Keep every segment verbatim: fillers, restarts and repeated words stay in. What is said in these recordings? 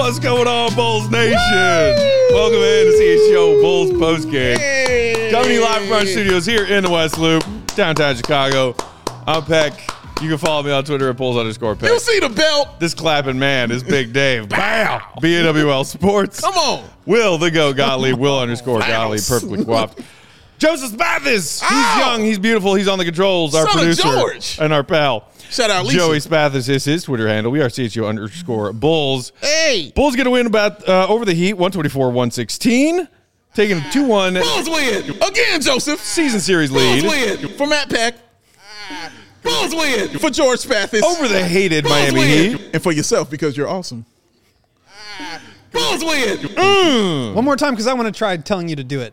What's going on, Bulls Nation? Woo! Welcome in to C H G O Bulls postgame. Hey. Coming to you live from our studios here in the West Loop, downtown Chicago. I'm Peck. You can follow me on Twitter at Bulls underscore Peck. You see the belt. This clapping man is Big Dave. Bow. B A W L Sports. Come on. Will the Go Gottlieb. Will underscore Gottlieb. Perfectly coiffed. Joseph Spathis. He's Ow. young. He's beautiful. He's on the controls. Our Son of producer George. and our pal. Shout out Lisa. Joey Spathis is his Twitter handle. We are C H G O underscore Bulls. Hey. Bulls get a win about uh, over the Heat, one twenty-four one sixteen. Taking a two one. Bulls win. Again, Joseph. Season series lead. Bulls win. For Matt Peck. Bulls win. For George Spathis. Over the hated Bulls Miami win. Heat. And for yourself, because you're awesome. Bulls win. Mm. One more time, because I want to try telling you to do it.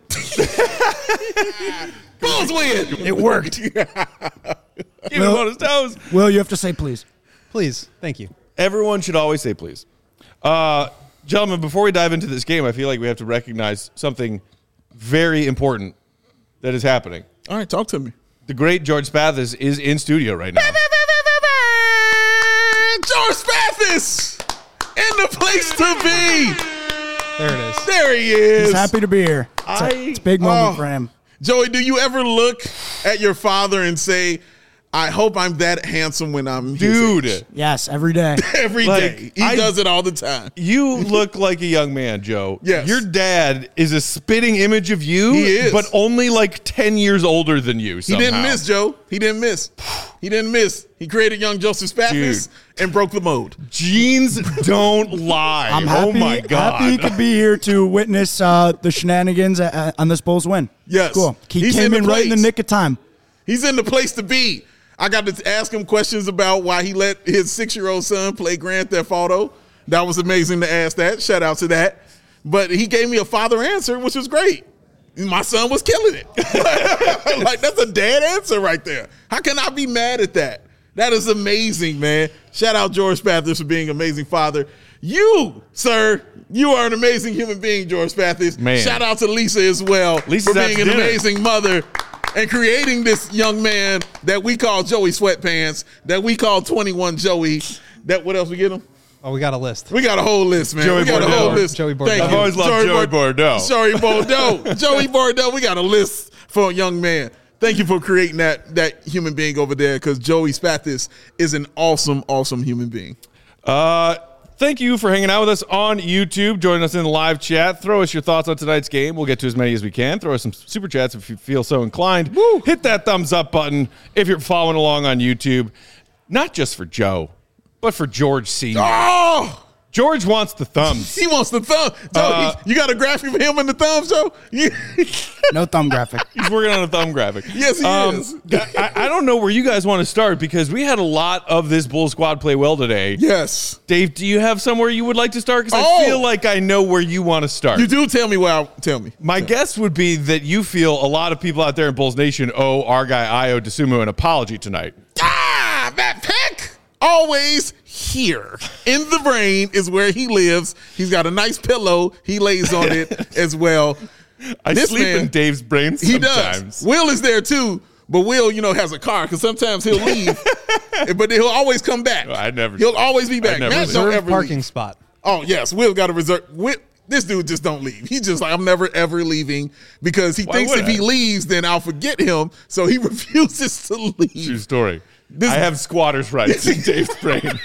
Bulls win. It worked. Keep him on his toes. Will, you have to say please. Please. Thank you. Everyone should always say please. Uh, gentlemen, before we dive into this game, I feel like we have to recognize something very important that is happening. All right, talk to me. The great George Spathis is in studio right now. George Spathis in the place to be. There it is. There he is. He's happy to be here. It's, I- a, it's a big moment Oh. for him. Joey, do you ever look at your father and say, I hope I'm that handsome when I'm his Dude. age? Yes, every day. Every Like, day. He I- does it all the time. You look like a young man, Joe. Yes. Your dad is a spitting image of you, He is. but only like ten years older than you He somehow. didn't miss, Joe. He didn't miss. He didn't miss. He created young Joseph Spathis and broke the mold. Genes don't lie. I'm happy, oh, my God. happy he could be here to witness uh, the shenanigans uh, on this Bulls win. Yes. Cool. He He's came in in, the right in the place. nick of time. He's in the place to be. I got to ask him questions about why he let his six-year-old son play Grand Theft Auto. That was amazing to ask that. Shout out to that. But he gave me a father answer, which was great. My son was killing it. Like, that's a dad answer right there. How can I be mad at that? That is amazing, man. Shout out George Spathis for being an amazing father. You, sir, you are an amazing human being, George Spathis. Man. Shout out to Lisa as well Lisa's for out being to an dinner. amazing mother and creating this young man that we call Joey Sweatpants, that we call twenty-one Joey. That what else we get him? Oh, we got a list. We got a whole list, man. Joey we got Bordeaux. a whole list. Joey Bordeaux. Thank I've you. always loved Joey Bord- Bordeaux. Joey Bordeaux. Joey Bordeaux. We got a list for a young man. Thank you for creating that that human being over there, because Joey Spathis is an awesome, awesome human being. Uh, thank you for hanging out with us on YouTube. Join us in the live chat. Throw us your thoughts on tonight's game. We'll get to as many as we can. Throw us some super chats if you feel so inclined. Woo. Hit that thumbs up button if you're following along on YouTube. Not just for Joe, but for George Senior Oh, George wants the thumbs. he wants the thumb. Joe, Uh, he- you got a graphic of him in the thumbs, Joe? You- No thumb graphic. He's working on a thumb graphic. Yes, he Um, is. I, I don't know where you guys want to start, because we had a lot of this Bull squad play well today. Yes. Dave, do you have somewhere you would like to start? Because Oh. I feel like I know where you want to start. You do tell me where I, tell me. My guess would be that you feel a lot of people out there in Bulls Nation owe our guy Ayo Dosunmu an apology tonight. Ah, Matt Peck, always here. In the brain is where he lives. He's got a nice pillow. He lays on it as well. I This sleep man, in Dave's brain He sometimes. does. Will is there too, but Will, you know, has a car, because sometimes he'll leave, but he'll always come back. I never- He'll always be back. never Matt leave. don't Reserved ever parking leave. spot. Oh yes, Will got a reserve. Will, this dude just don't leave. He's just like, I'm never ever leaving, because he Why thinks would if I? he leaves, then I'll forget him. So he refuses to leave. True story. This- I have squatter's rights in Dave's brain.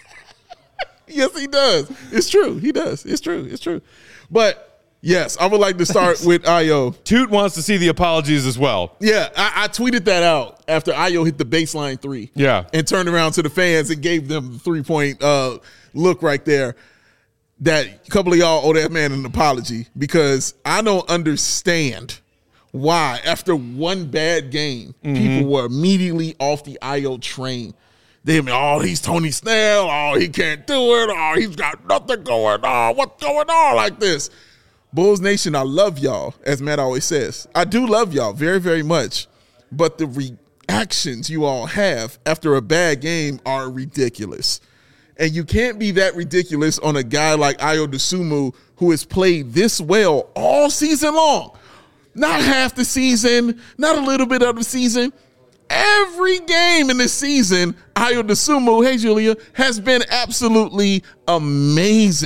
Yes, he does. It's true. He does. It's true. It's true. But yes, I would like to start with Ayo. Toot wants to see the apologies as well. Yeah, I, I tweeted that out after Ayo hit the baseline three. Yeah. And turned around to the fans and gave them the three-point uh, look right there. That a couple of y'all owe that man an apology, because I don't understand why, after one bad game, Mm-hmm. people were immediately off the Ayo train. They mean, oh, he's Tony Snell. Oh, he can't do it. Oh, he's got nothing going on. What's going on like this? Bulls Nation, I love y'all, as Matt always says. I do love y'all very, very much. But the reactions you all have after a bad game are ridiculous. And you can't be that ridiculous on a guy like Ayo Dosunmu, who has played this well all season long. Not half the season, not a little bit of the season. Every game in this season, Ayo Dosunmu, hey Julia, has been absolutely amazing.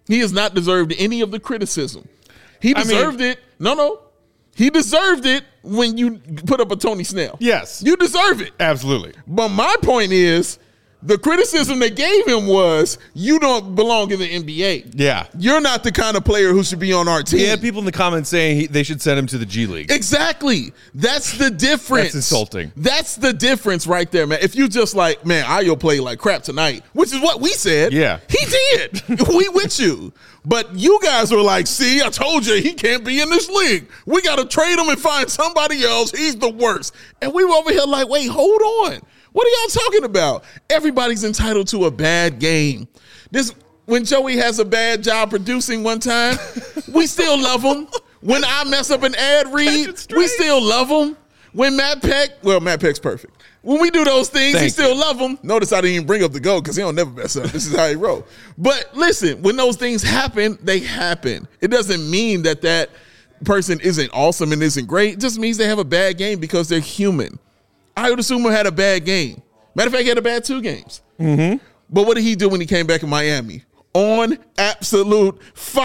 He has not deserved any of the criticism. He I mean- deserved it. No, no. He deserved it when you put up a Tony Snell. Yes. You deserve it. Absolutely. But my point is, the criticism they gave him was, you don't belong in the N B A. Yeah. You're not the kind of player who should be on our team. He had people in the comments saying he, they should send him to the G League. Exactly. That's the difference. That's insulting. That's the difference right there, man. If you just like, man, Ayo played like crap tonight, which is what we said. Yeah. He did. We with you. But you guys were like, see, I told you he can't be in this league. We got to trade him and find somebody else. He's the worst. And we were over here like, wait, hold on. What are y'all talking about? Everybody's entitled to a bad game. This when Joey has a bad job producing one time, we still love him. When I mess up an ad read, we still love him. When Matt Peck, well, Matt Peck's perfect. When we do those things, Thank we still you. love him. Notice I didn't even bring up the goal because he don't never mess up. This is how he roll. But listen, when those things happen, they happen. It doesn't mean that that person isn't awesome and isn't great. It just means they have a bad game because they're human. Ayo Dosunmu had a bad game. Matter of fact, he had a bad two games. Mm-hmm. But what did he do when he came back in Miami? On absolute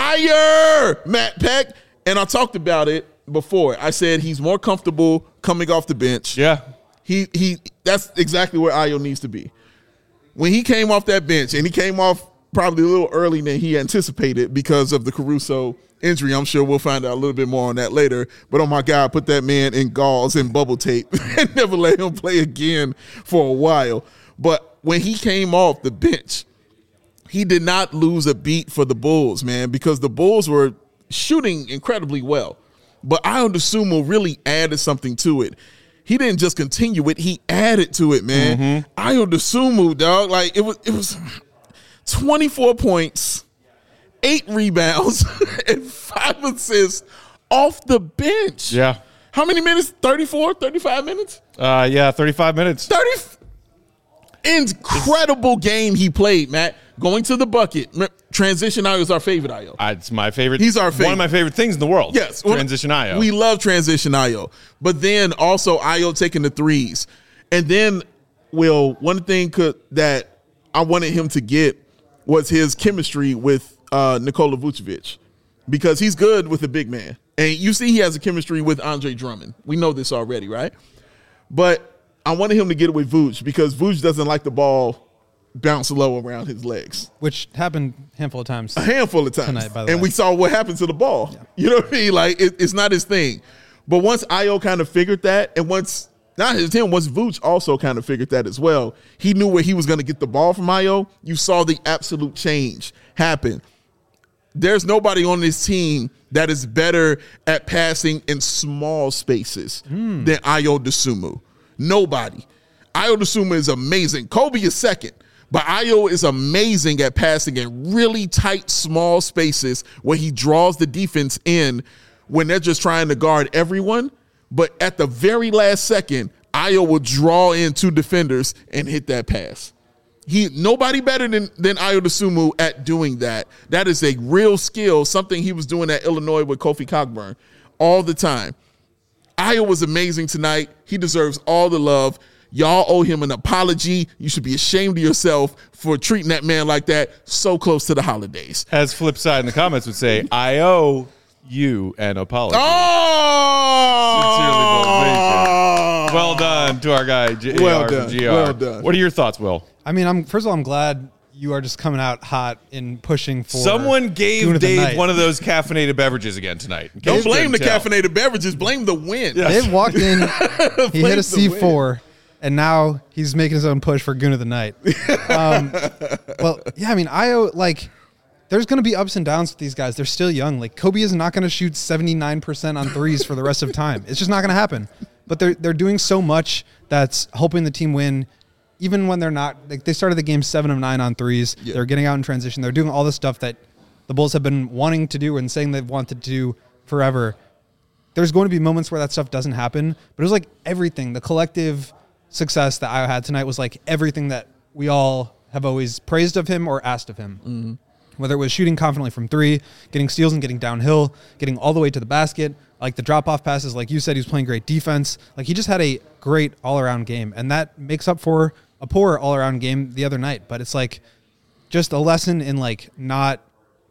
fire, Matt Peck. And I talked about it before. I said he's more comfortable coming off the bench. Yeah. He he. That's exactly where Ayo needs to be. When he came off that bench, and he came off probably a little early than he anticipated because of the Caruso injury. I'm sure we'll find out a little bit more on that later. But oh my God, put that man in gauze and bubble tape and never let him play again for a while. But when he came off the bench, he did not lose a beat for the Bulls, man, because the Bulls were shooting incredibly well. But Ayo Dosunmu really added something to it. He didn't just continue it; he added to it, man. Mm-hmm. Ayo Dosunmu, dog, like it was, it was twenty-four points, eight rebounds, and five assists off the bench. Yeah. How many minutes? thirty-four, thirty-five minutes? Uh, yeah, thirty-five minutes. thirty. Incredible game he played, Matt. Going to the bucket. Transition Ayo is our favorite Ayo. Uh, It's my favorite. He's our favorite. One of my favorite things in the world. Yes. Transition Ayo. We love transition Ayo. But then also Ayo taking the threes. And then, Will, one thing could, that I wanted him to get was his chemistry with uh, Nikola Vucevic, because he's good with a big man. And you see he has a chemistry with Andre Drummond. We know this already, right? But I wanted him to get it with Vooch because Vooch doesn't like the ball bounce low around his legs. Which happened a handful of times. A handful of times. Tonight, by the and way. we saw what happened to the ball. Yeah. You know what I mean? Like, it, it's not his thing. But once Ayo kind of figured that, and once, not his him, once Vooch also kind of figured that as well, he knew where he was going to get the ball from Ayo. You saw the absolute change happen. There's nobody on this team that is better at passing in small spaces mm. than Ayo Dosunmu. Nobody. Ayo Dosunmu is amazing. Kobe is second. But Ayo is amazing at passing in really tight, small spaces where he draws the defense in when they're just trying to guard everyone. But at the very last second, Ayo will draw in two defenders and hit that pass. He nobody better than, than Ayo Dosunmu at doing that. That is a real skill, something he was doing at Illinois with Kofi Cockburn all the time. Ayo was amazing tonight. He deserves all the love. Y'all owe him an apology. You should be ashamed of yourself for treating that man like that so close to the holidays. As flip side in the comments would say, I owe you an apology. Oh! Sincerely, Bulls Nation. Well done to our guy, J- Well R done. from G R. Well done. What are your thoughts, Will? I mean, I'm first of all, I'm glad you are just coming out hot in pushing for. Someone Goon gave of the Dave Night. one of those caffeinated beverages again tonight. in Don't case you blame the couldn't tell. caffeinated beverages. Blame the win. Yeah. Dave walked in, he hit a the C win. four, and now he's making his own push for Goon of the Night. Um, well, yeah, I mean, Ayo, like, there's going to be ups and downs with these guys. They're still young. Like, Kobe is not going to shoot seventy-nine percent on threes for the rest of time. It's just not going to happen. But they're they're doing so much that's helping the team win, even when they're not. Like, they started the game seven of nine on threes. Yeah. They're getting out in transition. They're doing all the stuff that the Bulls have been wanting to do and saying they've wanted to do forever. There's going to be moments where that stuff doesn't happen, but it was like everything. The collective success that Ayo had tonight was like everything that we all have always praised of him or asked of him. Mm-hmm. Whether it was shooting confidently from three, getting steals and getting downhill, getting all the way to the basket, like the drop-off passes, like you said, he was playing great defense. Like, he just had a great all-around game, and that makes up for a poor all-around game the other night. But it's like just a lesson in like not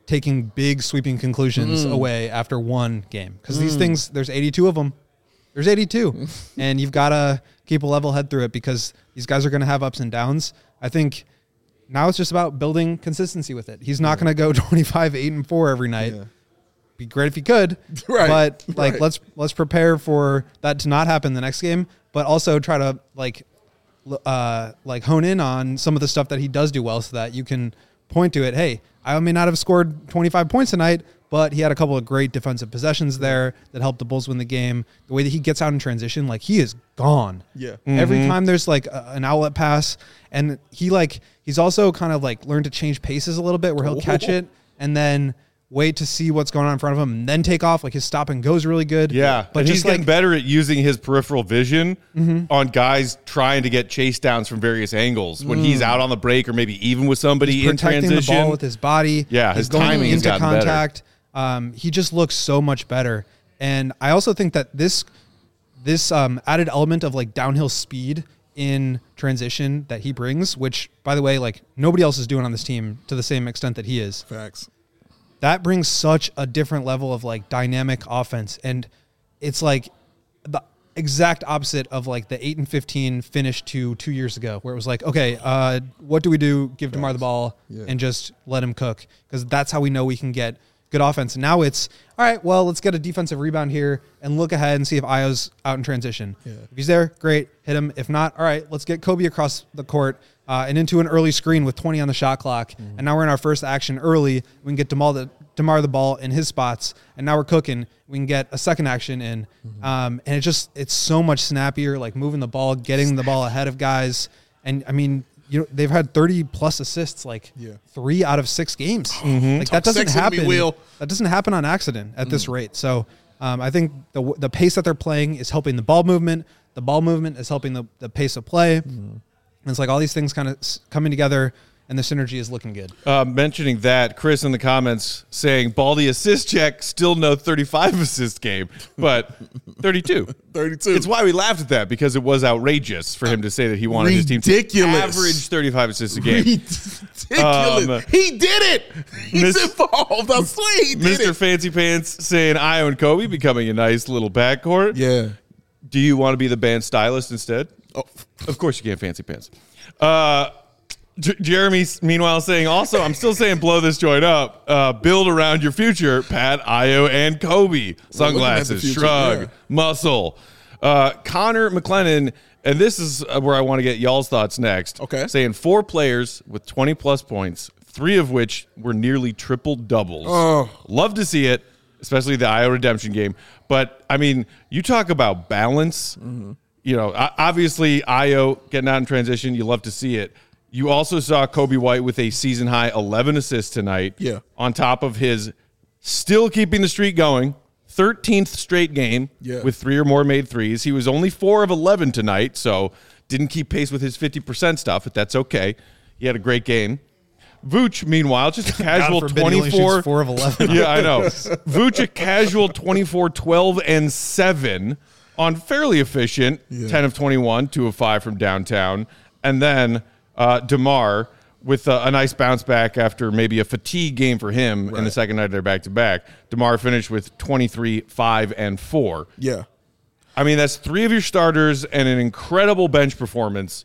taking big sweeping conclusions Mm. away after one game. Because these things, there's eighty-two of them. There's eighty-two. And you've got to keep a level head through it because these guys are going to have ups and downs. I think now it's just about building consistency with it. He's not going to go twenty-five, eight, and four every night. Yeah. Be great if he could. Right. But like Right. let's let's prepare for that to not happen the next game, but also try to like l- uh like hone in on some of the stuff that he does do well so that you can point to it. Hey, I may not have scored twenty-five points tonight, but he had a couple of great defensive possessions there that helped the Bulls win the game. The way that he gets out in transition, like he is gone. Yeah. Every time there's like a, an outlet pass, and he like he's also kind of like learned to change paces a little bit where he'll catch it and then wait to see what's going on in front of him and then take off. Like his stop and go is really good. Yeah, but and just he's getting like better at using his peripheral vision Mm-hmm. on guys trying to get chase downs from various angles when he's out on the break or maybe even with somebody in protecting transition. the ball with his body. Yeah, He's his going timing has into gotten better. contact. Um, he just looks so much better. And I also think that this this um, added element of like downhill speed in transition that he brings, which by the way, like nobody else is doing on this team to the same extent that he is. Facts. That brings such a different level of like dynamic offense. And it's like the exact opposite of like the eight and fifteen finish to two years ago, where it was like, okay, uh, what do we do? Give DeMar the ball Yeah. and just let him cook. Cause that's how we know we can get good offense. And now it's all right. Well, let's get a defensive rebound here and look ahead and see if Io's out in transition. Yeah. If he's there, great, hit him. If not, all right, let's get Kobe across the court uh, and into an early screen with twenty on the shot clock. Mm-hmm. And now we're in our first action early. We can get DeMar the, DeMar the ball in his spots. And now we're cooking. We can get a second action in. Mm-hmm. Um, and it just, it's so much snappier, like moving the ball, getting the ball ahead of guys. And I mean, you know, they've had thirty plus assists, like Yeah. three out of six games. Mm-hmm. Like that doesn't sexy to me, happen. Will. That doesn't happen on accident at this rate. So um, I think the the pace that they're playing is helping the ball movement. The ball movement is helping the, the pace of play. And it's like all these things kind of coming together, and the synergy is looking good. Uh, mentioning that, Chris in the comments saying Baldy assist check, still no thirty-five assist game, but thirty-two. thirty-two. It's why we laughed at that, because it was outrageous for him to say that he wanted his team to Ridiculous. average thirty-five assists a game. Ridiculous. Um, he did it. He's Miss- involved. I swear he did Mister it. Fancy Pants saying Io and Kobe becoming a nice little backcourt. Yeah. Do you want to be the band stylist instead? Oh, Of course you can, Fancy Pants. Uh, J- Jeremy, meanwhile, saying also, I'm still saying blow this joint up. Uh, build around your future, Pat, Io, and Kobe. Sunglasses, future, shrug, yeah. muscle. Uh, Connor McLennan, and this is uh, where I want to get y'all's thoughts next. Okay. Saying four players with twenty plus points, three of which were nearly triple doubles. Oh. Love to see it, especially the Io redemption game. But, I mean, you talk about balance. Mm-hmm. You know, o- obviously, Io getting out in transition, you love to see it. You also saw Kobe White with a season high eleven assists tonight. Yeah. On top of his still keeping the streak going, thirteenth straight game Yeah. with three or more made threes. He was only four of eleven tonight, so didn't keep pace with his fifty percent stuff, but that's okay. He had a great game. Vooch, meanwhile, just a casual God forbid he only shoots twenty-four. four of eleven. Yeah, I know. Vooch, a casual twenty-four, twelve, and seven on fairly efficient ten of twenty-one, two of five from downtown. And then uh, DeMar with a, a nice bounce back after maybe a fatigue game for him in the second night of their back-to-back. DeMar finished with twenty-three, five, and four. Yeah. I mean, that's three of your starters and an incredible bench performance,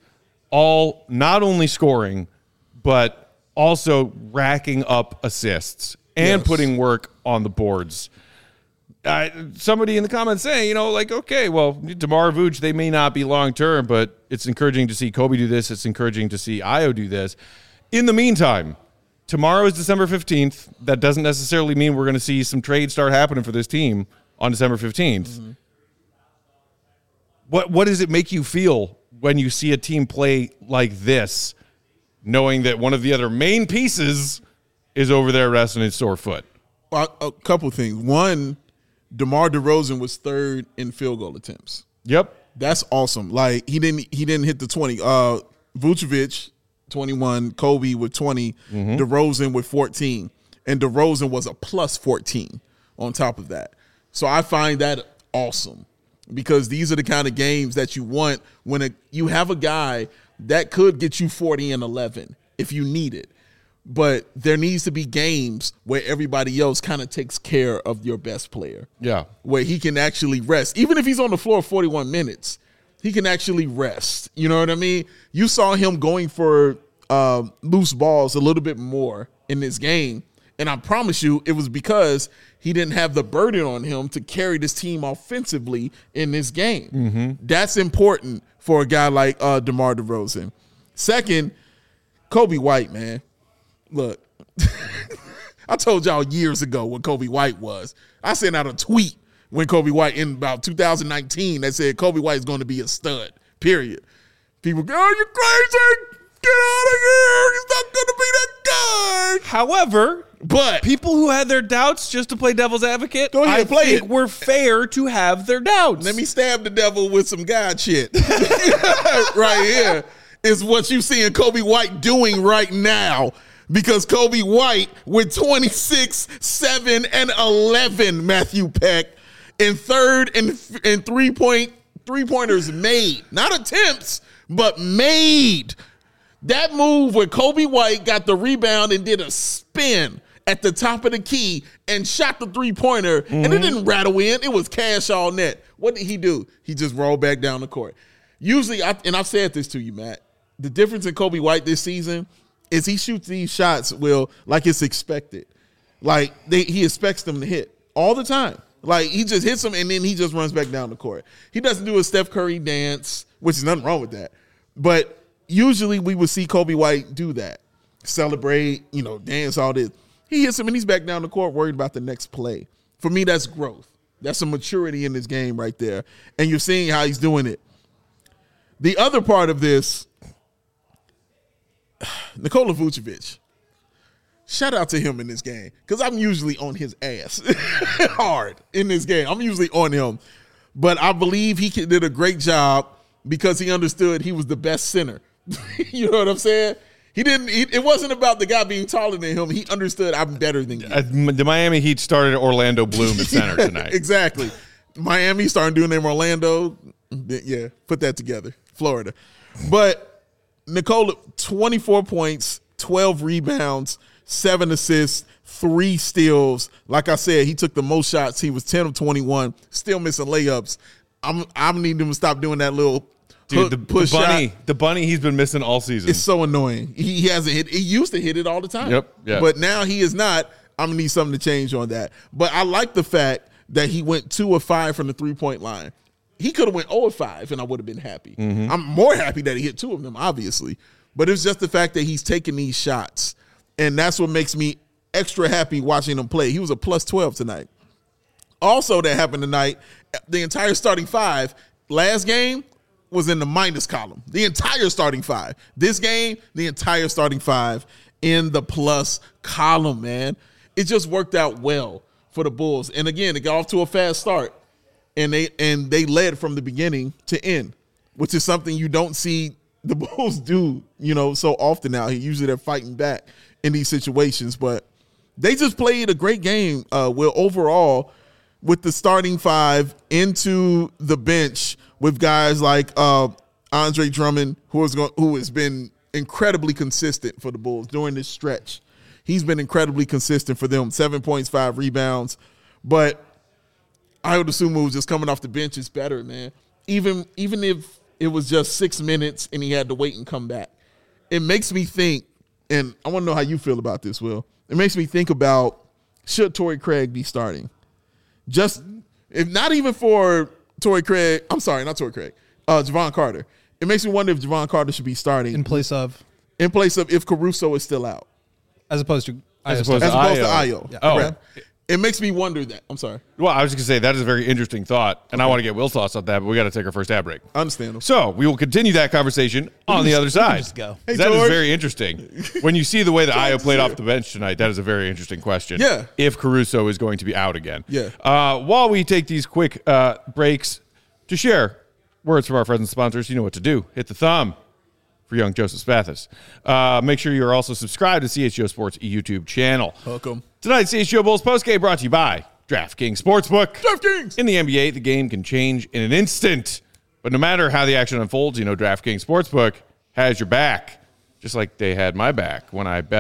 all not only scoring, but also racking up assists and Yes. putting work on the boards. Uh, somebody in the comments saying, you know, like, okay, well, DeMar Vooch, they may not be long-term, but it's encouraging to see Kobe do this. It's encouraging to see Io do this. In the meantime, tomorrow is December fifteenth. That doesn't necessarily mean we're going to see some trades start happening for this team on December fifteenth. Mm-hmm. What What does it make you feel when you see a team play like this, knowing that one of the other main pieces is over there resting his sore foot? Well, a couple things. One, DeMar DeRozan was third in field goal attempts. Yep. That's awesome. Like he didn't he didn't hit the twenty. Uh Vucevic, twenty-one, Kobe with twenty, DeRozan with fourteen. And DeRozan was a plus fourteen on top of that. So I find that awesome because these are the kind of games that you want when a, you have a guy that could get you forty and eleven if you need it. but there needs to be games where everybody else kind of takes care of your best player. Yeah. Where he can actually rest. Even if he's on the floor forty-one minutes, he can actually rest. You know what I mean? You saw him going for uh, loose balls a little bit more in this game. And I promise you, it was because he didn't have the burden on him to carry this team offensively in this game. Mm-hmm. That's important for a guy like uh, DeMar DeRozan. Second, Kobe White, man. Look, I told y'all years ago what Kobe White was. I sent out a tweet when Kobe White in about two thousand nineteen that said Kobe White is going to be a stud, period. People go, oh, you're crazy. Get out of here. He's not going to be that guy. However, but people who had their doubts, just to play devil's advocate, Go ahead, I play think it. we're fair to have their doubts. let me stab the devil with some God shit. Right here is what you seeing Kobe White doing right now. Because Kobe White with twenty-six, seven, and eleven, Matthew Peck, in third and and three point three pointers made, not attempts, but made. That move where Kobe White got the rebound and did a spin at the top of the key and shot the three pointer, mm-hmm. and it didn't rattle in. It was cash all net. What did he do? He just rolled back down the court. Usually, I, and I've said this to you, Matt. The difference in Kobe White this season is he shoots these shots, Will, like it's expected. Like they, he expects them to hit all the time. Like he just hits them and then he just runs back down the court. He doesn't do a Steph Curry dance, which is nothing wrong with that. But usually we would see Kobe White do that, celebrate, you know, dance, all this. He hits him and he's back down the court worried about the next play. For me, that's growth. That's some maturity in this game right there. And you're seeing how he's doing it. The other part of this, Nikola Vucevic, shout out to him in this game because I'm usually on his ass hard in this game. I'm usually on him. But I believe he did a great job because he understood he was the best center. You know what I'm saying? He didn't. He, it wasn't about the guy being taller than him. He understood I'm better than you. Uh, the Miami Heat started Orlando Bloom at center Yeah, tonight. Exactly. Miami started doing them Orlando. Yeah, put that together. Florida. But Nikola, twenty-four points, twelve rebounds, seven assists, three steals. Like I said, he took the most shots. He was ten of twenty-one, still missing layups. I'm I'm needing him to stop doing that little Dude, hook, the, push the bunny, shot. the bunny he's been missing all season. It's so annoying. He, he hasn't hit. He used to hit it all the time. Yep, yeah. But now he is not. I'm gonna need something to change on that. But I like the fact that he went two of five from the three point line. He could have went zero of five, and I would have been happy. Mm-hmm. I'm more happy that he hit two of them, obviously. But it's just the fact that he's taking these shots, and that's what makes me extra happy watching him play. He was a plus twelve tonight. Also, that happened tonight. The entire starting five last game was in the minus column. The entire starting five. This game, the entire starting five in the plus column, man. It just worked out well for the Bulls. And again, it got off to a fast start. And they and they led from the beginning to end, which is something you don't see the Bulls do, you know, so often now. Usually they're fighting back in these situations. But they just played a great game, uh, Will, overall, with the starting five into the bench with guys like uh, Andre Drummond, who is going, who has been incredibly consistent for the Bulls during this stretch. He's been incredibly consistent for them, seven points, five rebounds. But Ayo Dosunmu was just coming off the bench is better, man. Even even if it was just six minutes and he had to wait and come back. It makes me think, and I want to know how you feel about this, Will. It makes me think about, should Torrey Craig be starting? Just, if not even for Torrey Craig, I'm sorry, not Torrey Craig, uh, Javon Carter. It makes me wonder if Javon Carter should be starting. In place of? In place of if Caruso is still out. As opposed to As opposed As to opposed to Ayo. Ayo. Yeah. Oh. Correct? It makes me wonder that. I'm sorry. Well, I was just going to say, that is a very interesting thought, and I want to get Will's thoughts on that, but we got to take our first ad break. Understandable. So we will continue that conversation on the other side. just go. Hey, that is George. very interesting. When you see the way that Ayo played off the bench tonight, that is a very interesting question. Yeah. If Caruso is going to be out again. Yeah. Uh, while we take these quick uh, breaks to share words from our friends and sponsors, you know what to do. Hit the thumb for young Joseph Spathis. Uh, make sure you are also subscribed to C H G O Sports YouTube channel. Welcome. Tonight's C H G O Bulls postgame brought to you by DraftKings Sportsbook. DraftKings. In the N B A, the game can change in an instant. But no matter how the action unfolds, you know DraftKings Sportsbook has your back. Just like they had my back when I bet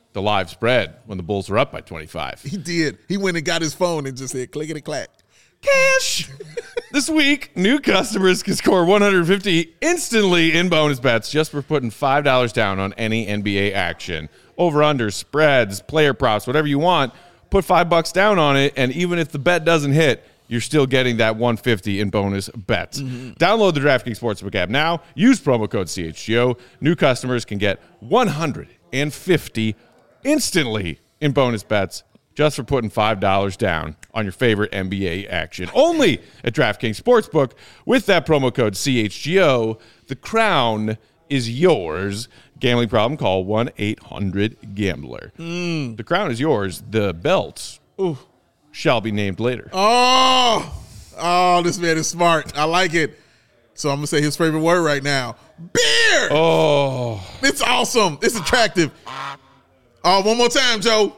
the live spread when the Bulls were up by twenty-five. He did. He went and got his phone and just said, clickety clack. Cash. This week, new customers can score one hundred fifty instantly in bonus bets just for putting five dollars down on any N B A action. Over-under, spreads, player props, whatever you want. Put five bucks down on it, and even if the bet doesn't hit, you're still getting that one hundred fifty in bonus bets. Mm-hmm. Download the DraftKings Sportsbook app now. Use promo code C H G O. New customers can get one hundred fifty instantly in bonus bets just for putting five dollars down on your favorite N B A action. Only at DraftKings Sportsbook. With that promo code C H G O, the crown is yours. Gambling problem, call one eight hundred gambler. Mm. The crown is yours. The belt Ooh. shall be named later. Oh, oh, this man is smart. I like it. So I'm going to say his favorite word right now. Beer! Oh. It's awesome. It's attractive. Oh, one more time, Joe.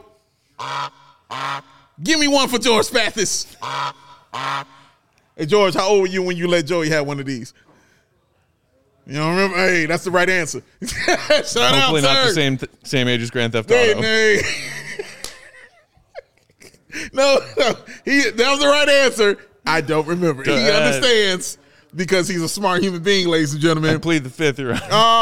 Give me one for George Spathis. Hey, George, how old were you when you let Joey have one of these? You don't remember? Hey, that's the right answer. Shout Hopefully out, not sir. the same th- same age as Grand Theft Hey, Auto. hey. no, no, he, that was the right answer. I don't remember. He Uh, understands because he's a smart human being, ladies and gentlemen. I plead the fifth here.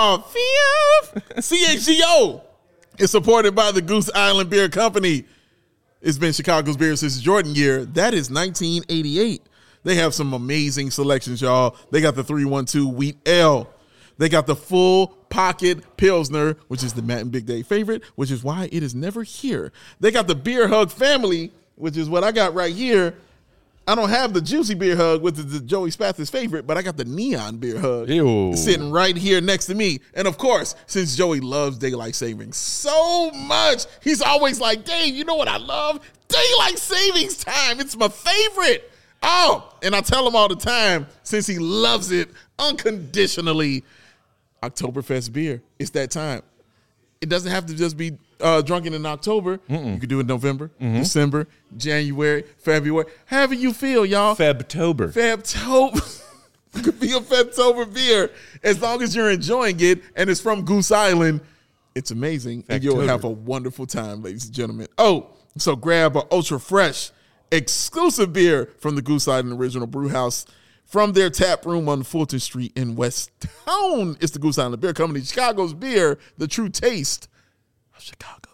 Oh, fifth. C H G O is supported by the Goose Island Beer Company. It's been Chicago's beer since the Jordan year. That is nineteen eighty-eight. They have some amazing selections, y'all. They got the three one two Wheat Ale. They got the Full Pocket Pilsner, which is the Matt and Big Day favorite, which is why it is never here. They got the Beer Hug Family, which is what I got right here. I don't have the Juicy Beer Hug, which is the Joey Spathis favorite, but I got the Neon Beer Hug Ew. sitting right here next to me. And of course, since Joey loves daylight savings so much, he's always like, Dave, you know what I love? Daylight savings time. It's my favorite. Oh, and I tell him all the time, since he loves it unconditionally, Oktoberfest beer. It's that time. It doesn't have to just be uh, drunken in October. Mm-mm. You can do it in November, mm-hmm. December, January, February. However you feel, y'all. Febtober. Febtober. It could be a Febtober beer. As long as you're enjoying it and it's from Goose Island, it's amazing. Febtober. And you'll have a wonderful time, ladies and gentlemen. Oh, so grab an ultra fresh exclusive beer from the Goose Island Original Brew House from their tap room on Fulton Street in West Town. It's the Goose Island Beer Company, Chicago's beer, the true taste of Chicago.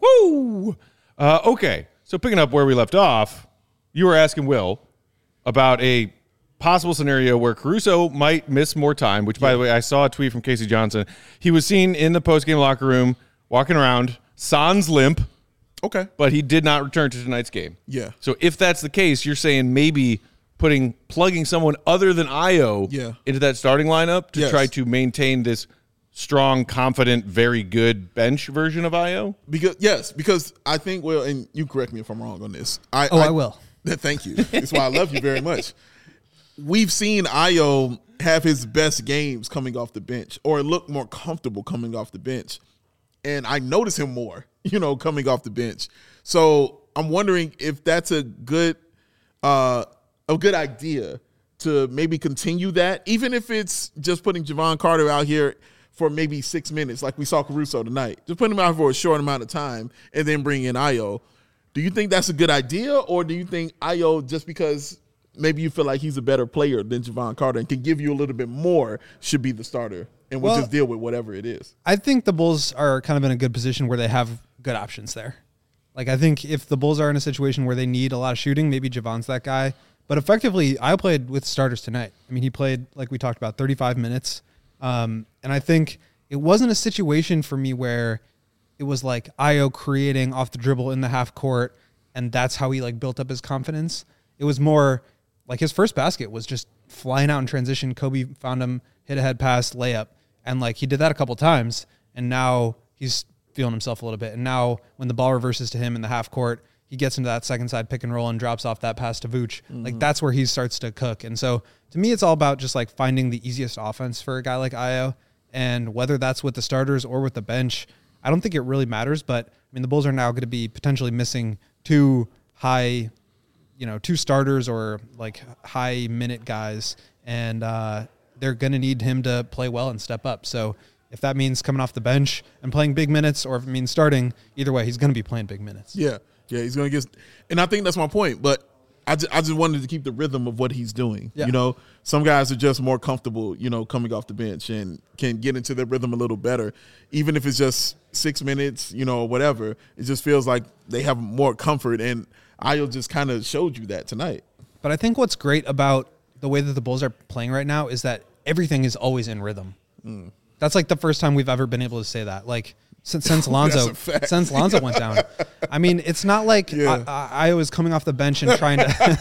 Woo! Uh, okay, so picking up where we left off, you were asking Will about a possible scenario where Caruso might miss more time, which, by yeah. the way, I saw a tweet from Casey Johnson. He was seen in the postgame locker room walking around, sans limp. Okay. But he did not return to tonight's game. Yeah. So if that's the case, you're saying maybe putting plugging someone other than Ayo yeah. into that starting lineup to yes. try to maintain this strong, confident, very good bench version of Ayo? Because yes, because I think, well, and you correct me if I'm wrong on this. I, oh, I, I will. Thank you. That's why I love you very much. We've seen Ayo have his best games coming off the bench or look more comfortable coming off the bench. And I notice him more, you know, coming off the bench. So I'm wondering if that's a good uh, a good idea to maybe continue that, even if it's just putting Javon Carter out here for maybe six minutes like we saw Caruso tonight. Just put him out for a short amount of time and then bring in Ayo. Do you think that's a good idea, or do you think Ayo, just because maybe you feel like he's a better player than Javon Carter and can give you a little bit more, should be the starter? And we'll, we'll just deal with whatever it is. I think the Bulls are kind of in a good position where they have good options there. Like, I think if the Bulls are in a situation where they need a lot of shooting, maybe Javon's that guy. But effectively, I played with starters tonight. I mean, he played, like we talked about, thirty-five minutes. Um, and I think it wasn't a situation for me where it was like Ayo creating off the dribble in the half court, and that's how he like built up his confidence. It was more like his first basket was just flying out in transition. Kobe found him, hit a head pass, layup. And like he did that a couple times, and now he's feeling himself a little bit. And now when the ball reverses to him in the half court, he gets into that second side pick and roll and drops off that pass to Vooch. Mm-hmm. Like that's where he starts to cook. And so to me, it's all about just like finding the easiest offense for a guy like Ayo. And whether that's with the starters or with the bench, I don't think it really matters. But I mean, the Bulls are now going to be potentially missing two high, you know, two starters or like high minute guys. And, uh, they're going to need him to play well and step up. So If that means coming off the bench and playing big minutes, or if it means starting, either way, he's going to be playing big minutes. Yeah, yeah, he's going to get – and I think that's my point. But I just, I just wanted to keep the rhythm of what he's doing. Yeah. You know, some guys are just more comfortable, you know, coming off the bench and can get into their rhythm a little better. Even if it's just six minutes, you know, whatever, it just feels like they have more comfort. And Ayo just kind of showed you that tonight. But I think what's great about the way that the Bulls are playing right now is that everything is always in rhythm. Mm. That's like the first time we've ever been able to say that. Like since since Lonzo since Lonzo went down. I mean, it's not like yeah. I, I, I was coming off the bench and trying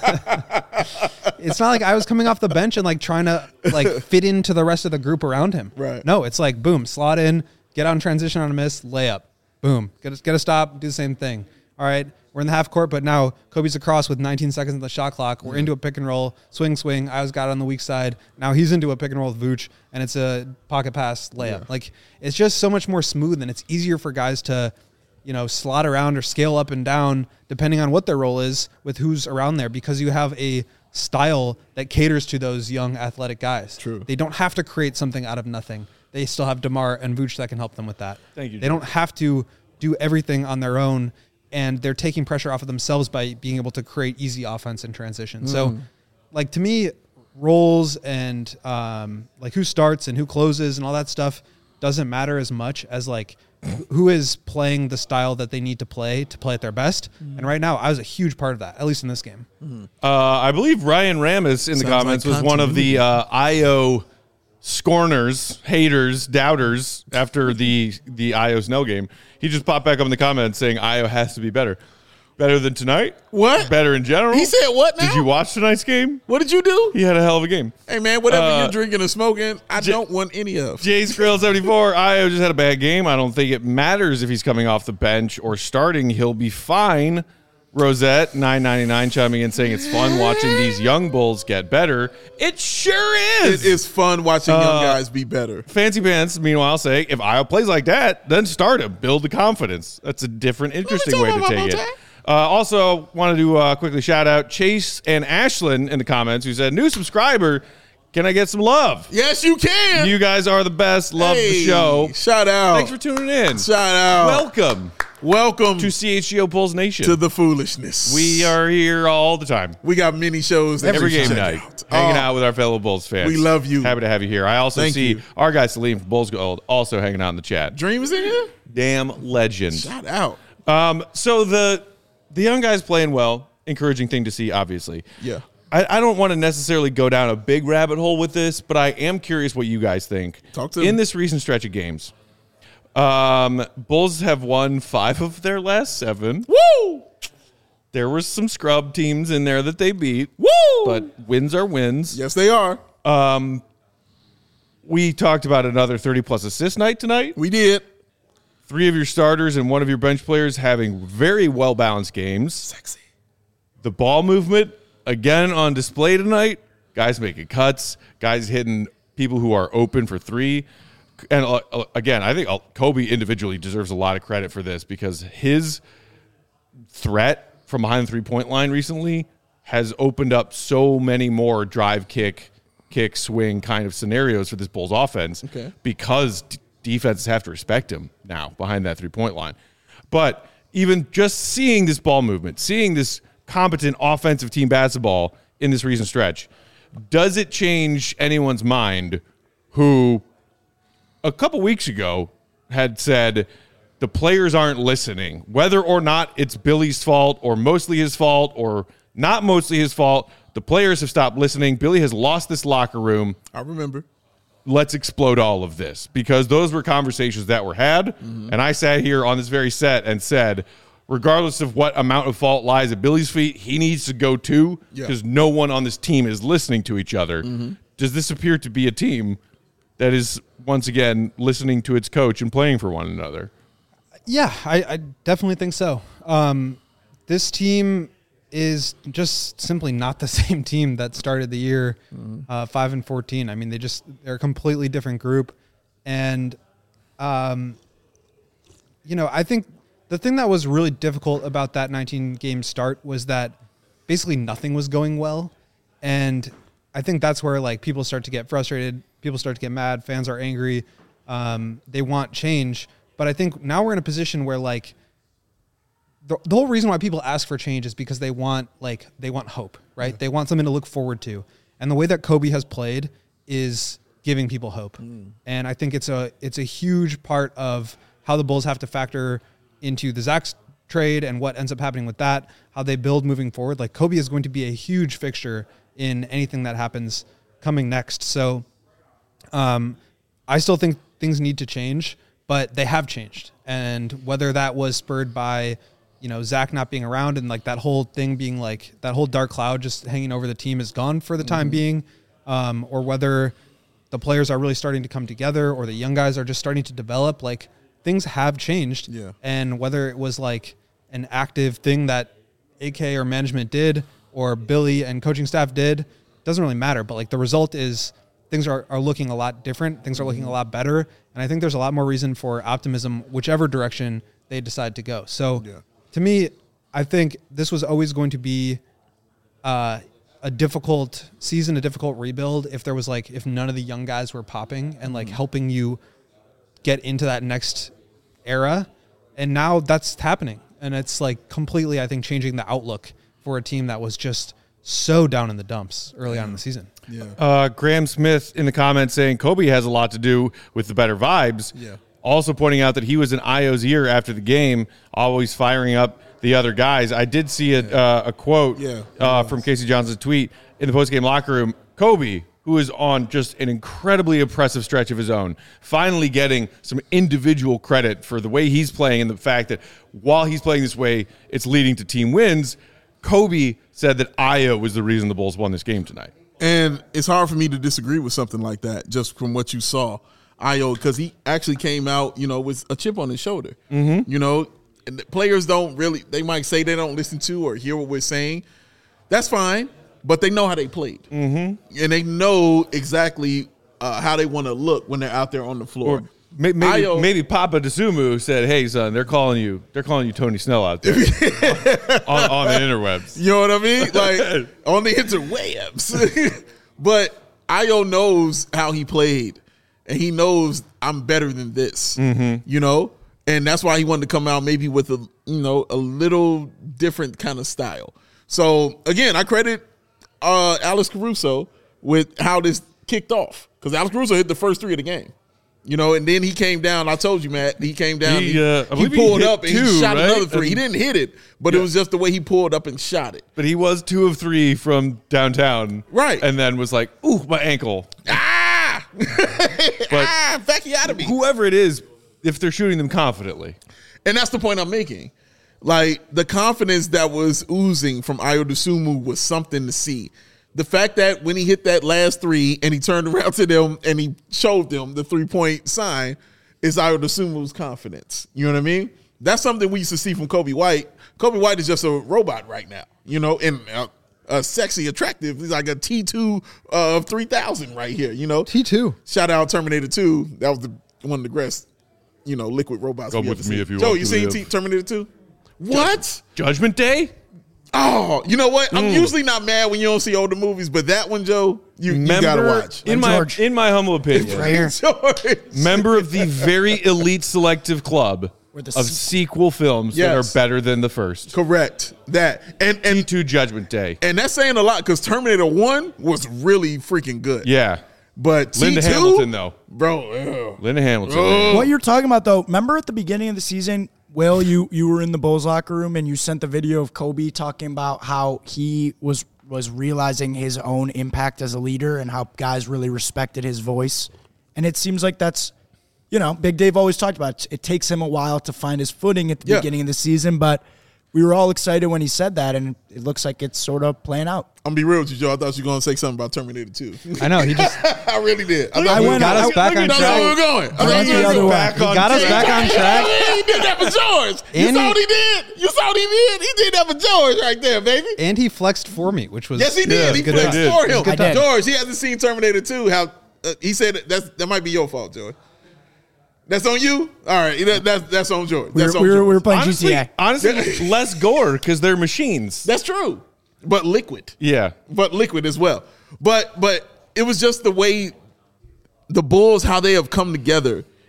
to. It's not like I was coming off the bench and like trying to like fit into the rest of the group around him. Right. No, it's like boom, slot in, get out in transition on a miss, layup, boom, get a, get a stop, do the same thing. All right. We're in the half court, but now Kobe's across with nineteen seconds on the shot clock. We're into a pick and roll, swing, swing. I was got on the weak side. Now he's into a pick and roll with Vooch, and it's a pocket pass layup. Yeah. Like, it's just so much more smooth, and it's easier for guys to, you know, slot around or scale up and down depending on what their role is with who's around there, because you have a style that caters to those young athletic guys. True. They don't have to create something out of nothing. They still have DeMar and Vooch that can help them with that. Thank you, They don't have to do everything on their own, and they're taking pressure off of themselves by being able to create easy offense and transition. Mm. So, like, to me, roles and um, like who starts and who closes and all that stuff doesn't matter as much as like who is playing the style that they need to play to play at their best. Mm. And right now, I was a huge part of that, at least in this game. Mm. Uh, I believe Ryan Ramis in Sounds the comments like was one of the uh, Ayo scorners, haters, doubters after the the Ayo Snell game. He just popped back up in the comments saying Ayo has to be better. Better than tonight? What? Better in general? He said what now? Did you watch tonight's game? What did you do? He had a hell of a game. Hey, man, whatever Uh, you're drinking and smoking, I J- don't want any of. Jay Skrill seventy-four, Ayo just had a bad game. I don't think it matters if he's coming off the bench or starting. He'll be fine. Rosette nine ninety-nine chiming in saying it's fun watching these young Bulls get better. It sure is. It is fun watching young Uh, guys be better. Fancy Pants, meanwhile, say if Ayo plays like that, then start him. Build the confidence. That's a different, interesting way to take it. Uh, also, wanted to uh, quickly shout out Chase and Ashlyn in the comments who said, new subscriber, can I get some love? Yes, you can. You guys are the best. Love Hey, the show. Shout out. Thanks for tuning in. Shout out. Welcome Welcome to C H G O Bulls Nation. to the foolishness. We are here all the time. We got many shows that Every we game check night, out. hanging Oh, out with our fellow Bulls fans. We love you. Happy to have you here. I also Thank see you. our guy Salim from Bulls Gold also hanging out in the chat. Dream is in here? Damn legend. Shout out. Um, so the the young guys playing well, encouraging thing to see, obviously. Yeah. I, I don't want to necessarily go down a big rabbit hole with this, but I am curious what you guys think. Talk to In me. this recent stretch of games, um, Bulls have won five of their last seven. Woo! There were some scrub teams in there that they beat. Woo! But wins are wins. Yes, they are. Um, we talked about another thirty-plus assist night tonight. We did. Three of your starters and one of your bench players having very well-balanced games. Sexy. The ball movement, again, on display tonight. Guys making cuts. Guys hitting people who are open for three. And, uh, again, I think Kobe individually deserves a lot of credit for this because his threat from behind the three-point line recently has opened up so many more drive, kick, kick, swing kind of scenarios for this Bulls offense Okay. because d- defenses have to respect him now behind that three-point line. But even just seeing this ball movement, seeing this competent offensive team basketball in this recent stretch, does it change anyone's mind who a couple weeks ago had said the players aren't listening, whether or not it's Billy's fault or mostly his fault or not mostly his fault? The players have stopped listening. Billy has lost this locker room. I remember. Let's explode all of this, because those were conversations that were had. Mm-hmm. And I sat here on this very set and said, regardless of what amount of fault lies at Billy's feet, he needs to go too, because Yeah. no one on this team is listening to each other. Mm-hmm. Does this appear to be a team that is, once again, listening to its coach and playing for one another? Yeah, I, I definitely think so. Um, this team is just simply not the same team that started the year uh, five and fourteen. I mean, they just they're a completely different group, and um, you know, I think the thing that was really difficult about that nineteen game start was that basically nothing was going well, and I think that's where like people start to get frustrated, people start to get mad, fans are angry, Um, they want change. But I think now we're in a position where like the, the whole reason why people ask for change is because they want like they want hope, right? Yeah. They want something to look forward to. And the way that Kobe has played is giving people hope. Mm. And I think it's a it's a huge part of how the Bulls have to factor into the Zach trade and what ends up happening with that, how they build moving forward. Like Kobe is going to be a huge fixture in anything that happens coming next. So um, I still think things need to change, but they have changed. And whether that was spurred by, you know, Zach not being around and like that whole thing being like that whole dark cloud just hanging over the team is gone for the time mm-hmm. being, um, or whether the players are really starting to come together or the young guys are just starting to develop, like things have changed. Yeah. And whether it was like an active thing that A K or management did or Billy and coaching staff did, doesn't really matter. But like the result is things are, are looking a lot different. Things are looking a lot better. And I think there's a lot more reason for optimism, whichever direction they decide to go. So yeah. to me, I think this was always going to be uh, a difficult season, a difficult rebuild. If there was like, if none of the young guys were popping and like mm-hmm. helping you get into that next era. And now that's happening. And it's like completely, I think, changing the outlook for a team that was just so down in the dumps early on in the season. Yeah. Uh, Graham Smith in the comments saying Kobe has a lot to do with the better vibes. Yeah. Also pointing out that he was in Io's ear after the game, always firing up the other guys. I did see a, yeah. uh, a quote yeah. uh, from Casey Johnson's tweet in the postgame locker room. Kobe, who is on just an incredibly impressive stretch of his own, finally getting some individual credit for the way he's playing and the fact that while he's playing this way, it's leading to team wins. Kobe said that Io was the reason the Bulls won this game tonight. And it's hard for me to disagree with something like that just from what you saw. Io, because he actually came out, you know, with a chip on his shoulder. Mm-hmm. You know, and the players don't really, they might say they don't listen to or hear what we're saying. That's fine, but they know how they played. Mm-hmm. And they know exactly uh, how they want to look when they're out there on the floor. Or maybe, Io, maybe Papa Dosunmu said, hey, son, they're calling you, they're calling you Tony Snell out there on, on the interwebs. You know what I mean? Like, on the interwebs. But Io knows how he played. And he knows I'm better than this, mm-hmm. you know? And that's why he wanted to come out maybe with a, you know, a little different kind of style. So, again, I credit uh, Alex Caruso with how this kicked off. Because Alex Caruso hit the first three of the game. You know, and then he came down. I told you, Matt, he came down. He, he, uh, he pulled he up and two, he shot right? another three. He didn't hit it, but yeah. it was just the way he pulled up and shot it. But he was two of three from downtown. Right. And then was like, ooh, my ankle. Ah! But ah, Facchiotomy. Whoever it is, if they're shooting them confidently. And that's the point I'm making. Like, the confidence that was oozing from Io Dosunmu was something to see. The fact that when he hit that last three and he turned around to them and he showed them the three-point sign is Io Dosunmu's confidence. You know what I mean? That's something we used to see from Kobe White. Kobe White is just a robot right now, you know, and uh, uh, sexy, attractive. He's like a T two of uh, three thousand right here, you know? T two. Shout out Terminator two. That was the, one of the greatest, you know, liquid robots. Come with me if you Joe, want you to seen live. T- Terminator two? What? Judgment Day? Oh, you know what? I'm Mm. usually not mad when you don't see older movies, but that one, Joe, you, you Member, gotta watch. In my in my humble opinion, Right here. George. member of the very elite selective club Where the of sequel- sequel films Yes. that are better than the first. Correct. That and T and two Judgment Day. and that's saying a lot because Terminator one was really freaking good. Yeah. But Linda T two, Hamilton, though. bro. Ugh. Linda Hamilton. Oh. What you're talking about, though, remember at the beginning of the season, Will, you you were in the Bulls locker room and you sent the video of Kobe talking about how he was was realizing his own impact as a leader and how guys really respected his voice. And it seems like that's, you know, Big Dave always talked about it. It takes him a while to find his footing at the Yeah. beginning of the season, but we were all excited when he said that, and it looks like it's sort of playing out. I'm gonna be real with you, Joe. I thought you were gonna say something about Terminator two. I know. He just I really did. I, I thought we went- got I- us back on That's where we were track. going. I thought Went we the were other going way. back He on got us track. back on track. He did that for George. You And saw he- what he did. You saw what he did. He did that for George right there, baby. and he flexed for me, which was Yes, he yeah, did. He good flexed time. for him. Good time. George, he hasn't seen Terminator two. How uh, he said that that's, that might be your fault, George. That's on you. All right, that, that's that's on George. We were, That's on we were, George. we were playing Honestly, G T A. honestly less gore because they're machines. That's true, but liquid. Yeah. But liquid as well. But but it was just the way the Bulls, how they have come together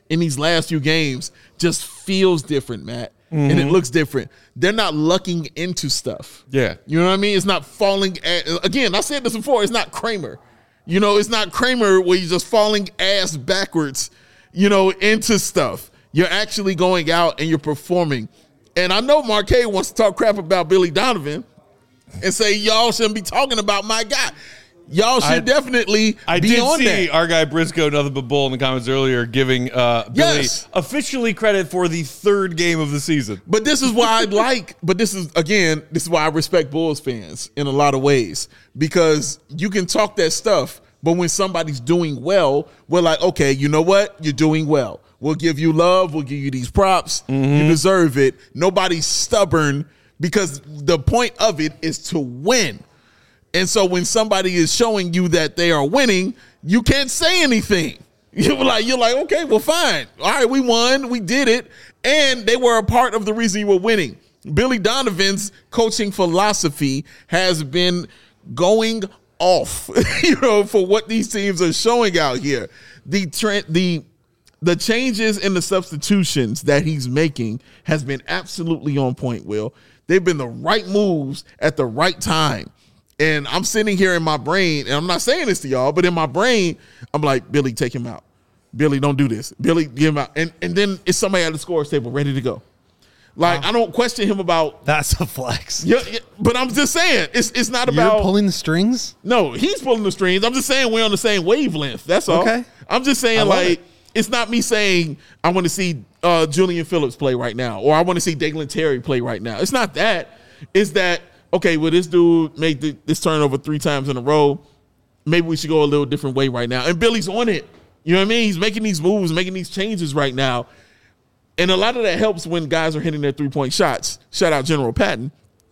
in these last few games just feels different, Matt. Mm-hmm. And it looks different. They're not lucking into stuff. Yeah. You know what I mean? It's not falling at, again, I said this before, it's not Kramer. You know, it's not Kramer where you're just falling ass backwards, you know, into stuff. You're actually going out and you're performing. And I know Marquez wants to talk crap about Billy Donovan and say, y'all shouldn't be talking about my guy. Y'all should I, definitely I be did on see that. Our guy Briscoe, nothing but bull in the comments earlier, giving uh, Billy yes. officially credit for the third game of the season. But this is why I like, but this is, again, this is why I respect Bulls fans in a lot of ways. Because you can talk that stuff, but when somebody's doing well, we're like, okay, you know what? You're doing well. We'll give you love. We'll give you these props. Mm-hmm. You deserve it. Nobody's stubborn because the point of it is to win. And so when somebody is showing you that they are winning, you can't say anything. You're like, you're like, okay, well, fine. All right, we won. We did it. And they were a part of the reason you were winning. Billy Donovan's coaching philosophy has been going off, you know, for what these teams are showing out here. The trend, the the changes in the substitutions that he's making has been absolutely on point, Will. They've been the right moves at the right time. And I'm sitting here in my brain, and I'm not saying this to y'all, but in my brain, I'm like, Billy, take him out. Billy, don't do this. Billy, give him out. And and then it's somebody at the scorer's table ready to go. Like, wow. I don't question him about. That's a flex. Yeah, yeah, but I'm just saying, it's it's not You're about. pulling the strings? No, he's pulling the strings. I'm just saying we're on the same wavelength. That's all. Okay. I'm just saying, like, it. it's not me saying I want to see uh, Julian Phillips play right now, or I want to see Dalen Terry play right now. It's not that. It's that, okay, well, this dude made the, this turnover three times in a row. Maybe we should go a little different way right now. And Billy's on it. You know what I mean? He's making these moves, making these changes right now. And a lot of that helps when guys are hitting their three-point shots. Shout out General Patton.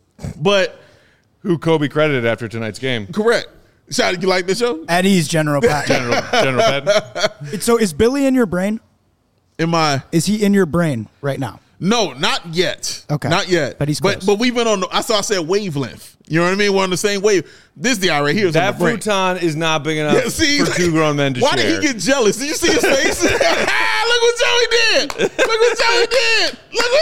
But who Kobe credited after tonight's game. Correct. Shout out, you like the show? At ease, General Patton. General, General Patton. So is Billy in your brain? Am I? Is he in your brain right now? No, not yet. Okay. Not yet. But he's close. But, but we've been on, the, I saw I said wavelength. You know what I mean? We're on the same wave. This guy right here is that on the brain. futon is not big enough Yeah, see, for two grown men to why share. Why did he get jealous? Did you see his face? Look what Joey did. Look what Joey did. Look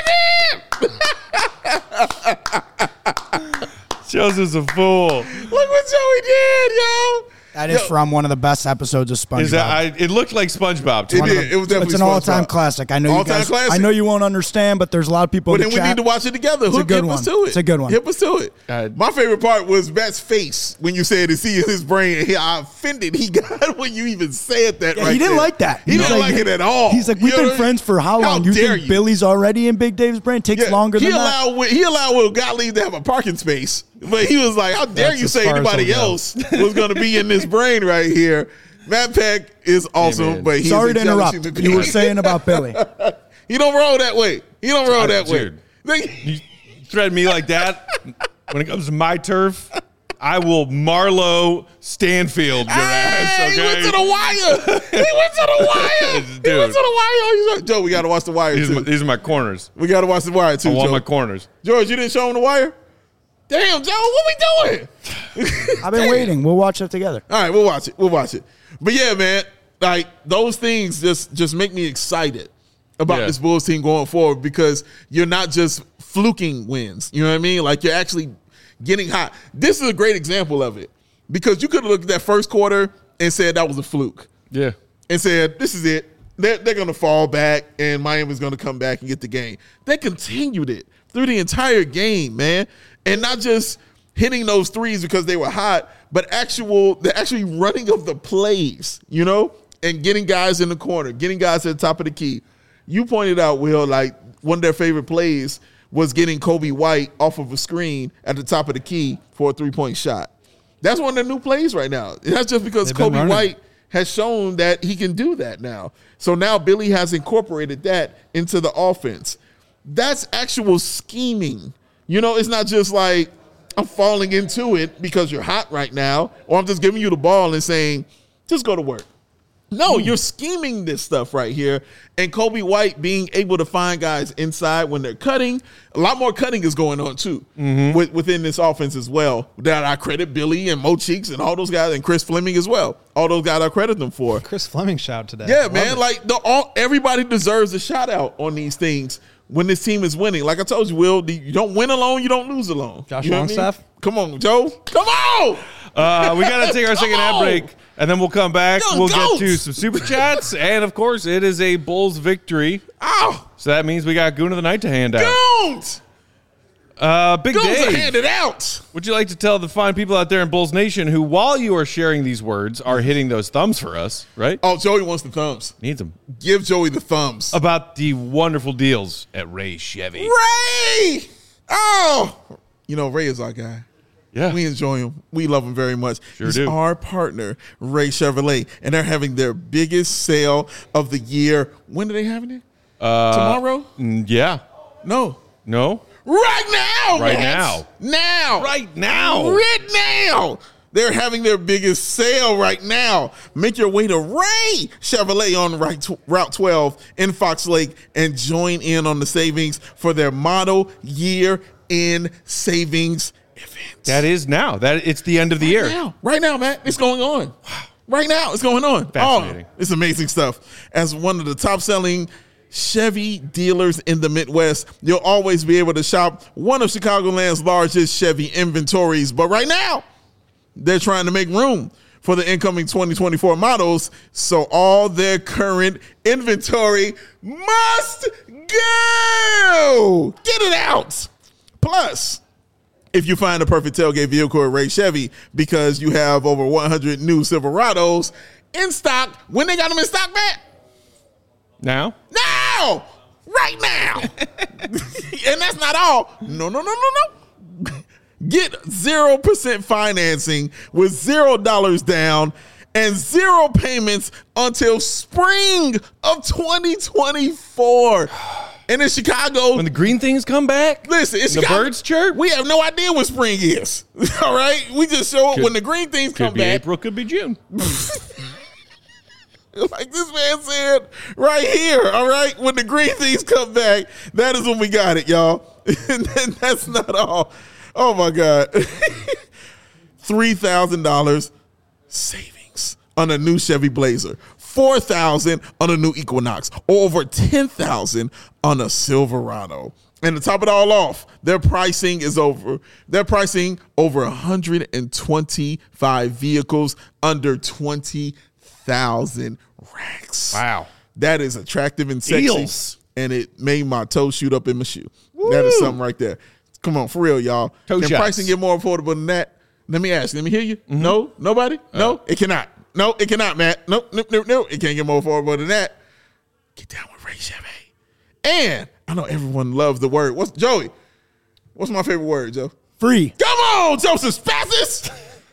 what Joey did. Joseph's a fool. Look what Joey did, yo. That is yo. from one of the best episodes of SpongeBob. Is that, I, it looked like SpongeBob. It One did. of the, It was definitely It's an SpongeBob. all-time classic. I know you All-time guys. classic. I know you won't understand, but there's a lot of people But in then the we chat. need to watch it together. It's a Hook, good hip us one. to it. It's a good one. Hip us to it. Uh, My favorite part was Matt's face when you said to see in his brain. He, I offended. He got when you even said that. Yeah, right he didn't there. like that. He He's didn't like, like- it at all. He's like, You we've know been what I friends mean? for how long? How you dare think Billy's already in Big Dave's brain? Takes Yeah, longer he than that. allowed, He allowed Will Gottlieb to have a parking space, but he was like, "How dare That's you as say far as anybody he'll go. else was going to be in this brain right here?" Matt Peck is awesome, man. but he's Sorry a to jealous interrupt. human You were being. saying about Billy. He don't roll that way. He don't roll that way. Dude. You threaten me like that when it comes to my turf, I will Marlo Stanfield your ass, Hey, okay? He went to the wire. He went to the wire. He Dude. went to the wire. He's like, Joe, we got to watch the wire These are, too. my, these are my corners. We got to watch the wire too, I want Joe. my corners. George, you didn't show him the wire? Damn, Joe, what we doing? I've been Damn. waiting. We'll watch it together. All right, we'll watch it. We'll watch it. But yeah, man, like those things just just make me excited about Yeah. this Bulls team going forward because you're not just fluking wins. You know what I mean? Like you're actually getting hot. This is a great example of it because you could have looked at that first quarter and said that was a fluke Yeah. and said this is it. They're, they're going to fall back and Miami's going to come back and get the game. They continued it through the entire game, man, and not just hitting those threes because they were hot, but actual the actually running of the plays, you know, and getting guys in the corner, getting guys at the top of the key. You pointed out, Will, like one of their favorite plays was getting Kobe White off of a screen at the top of the key for a three-point shot. That's one of their new plays right now. And that's just because They've been Kobe running. White has shown that he can do that now. So now Billy has incorporated that into the offense. That's actual scheming. You know, it's not just like I'm falling into it because you're hot right now, or I'm just giving you the ball and saying, just go to work. No, you're scheming this stuff right here. And Kobe White being able to find guys inside when they're cutting. A lot more cutting is going on, too, Mm-hmm. with, within this offense as well. That I credit Billy and Mo Cheeks and all those guys, and Chris Fleming as well. All those guys I credit them for. Chris Fleming shout today. Yeah, Love man. it. Like, the all everybody deserves a shout out on these things when this team is winning. Like I told you, Will, the- you don't win alone, you don't lose alone. Josh You know what I mean? Longstaff? Come on, Joe. Come on. Uh, we got to take our second ad on. break, and then we'll come back. Young We'll goats. get to some super chats, and of course, it is a Bulls victory. Ow. So that means we got Goon of the Night to hand out. Don't. Uh, Big Goons are Dave, handed out. would you like to tell the fine people out there in Bulls Nation who, while you are sharing these words, are hitting those thumbs for us, right? Oh, Joey wants the thumbs. Needs them. Give Joey the thumbs. About the wonderful deals at Ray Chevy. Ray! Oh! You know, Ray is our guy. Yeah. We enjoy him. We love him very much. Sure He's do. our partner, Ray Chevrolet, and they're having their biggest sale of the year. When are they having it? Uh, Tomorrow? Mm, Yeah. No. No? Right now! Right Max. Now! Right now. Right now! They're having their biggest sale right now. Make your way to Ray Chevrolet on Route twelve in Fox Lake and join in on the savings for their model year in savings event. That is now. That It's the end of the year. Right now, right now, Matt, it's going on. Right now, it's going on. Fascinating. Oh, it's amazing stuff. As one of the top-selling Chevy dealers in the Midwest, you'll always be able to shop one of Chicagoland's largest Chevy inventories. But right now, they're trying to make room for the incoming twenty twenty-four models, so all their current inventory must go. Get it out. Plus, if you find a perfect tailgate vehicle at Ray Chevy because you have over one hundred new Silverados in stock, when they got them in stock, Matt? Now? Now! Right now! And that's not all. No, no, no, no, no. Get zero percent financing with zero dollars down and zero payments until spring of twenty twenty-four. And in Chicago, When the green things come back? listen, it's the Chicago, birds chirp? we have no idea what spring is. All right? We just show up Could- when the green things Could come be back. April, could be June. Like this man said right here, all right? When the green things come back, that is when we got it, y'all. And then that's not all. Oh, my God. three thousand dollars savings on a new Chevy Blazer. four thousand dollars on a new Equinox. Or over ten thousand dollars on a Silverado. And to top it all off, their pricing is over. Their pricing over one hundred twenty-five vehicles under twenty thousand racks. Wow. That is attractive and sexy. Deals. And it made my toe shoot up in my shoe. That is something right there. Come on, for real, y'all. Toe Can shots. pricing get more affordable than that? Let me ask. Let me hear you. No? Nobody? no? It cannot. No, it cannot, Matt. Nope, nope, nope, nope. It can't get more affordable than that. Get down with Ray Chevy. And I know everyone loves the word. What's Joey? What's my favorite word, Joe? Free. Come on, Joseph Spassis.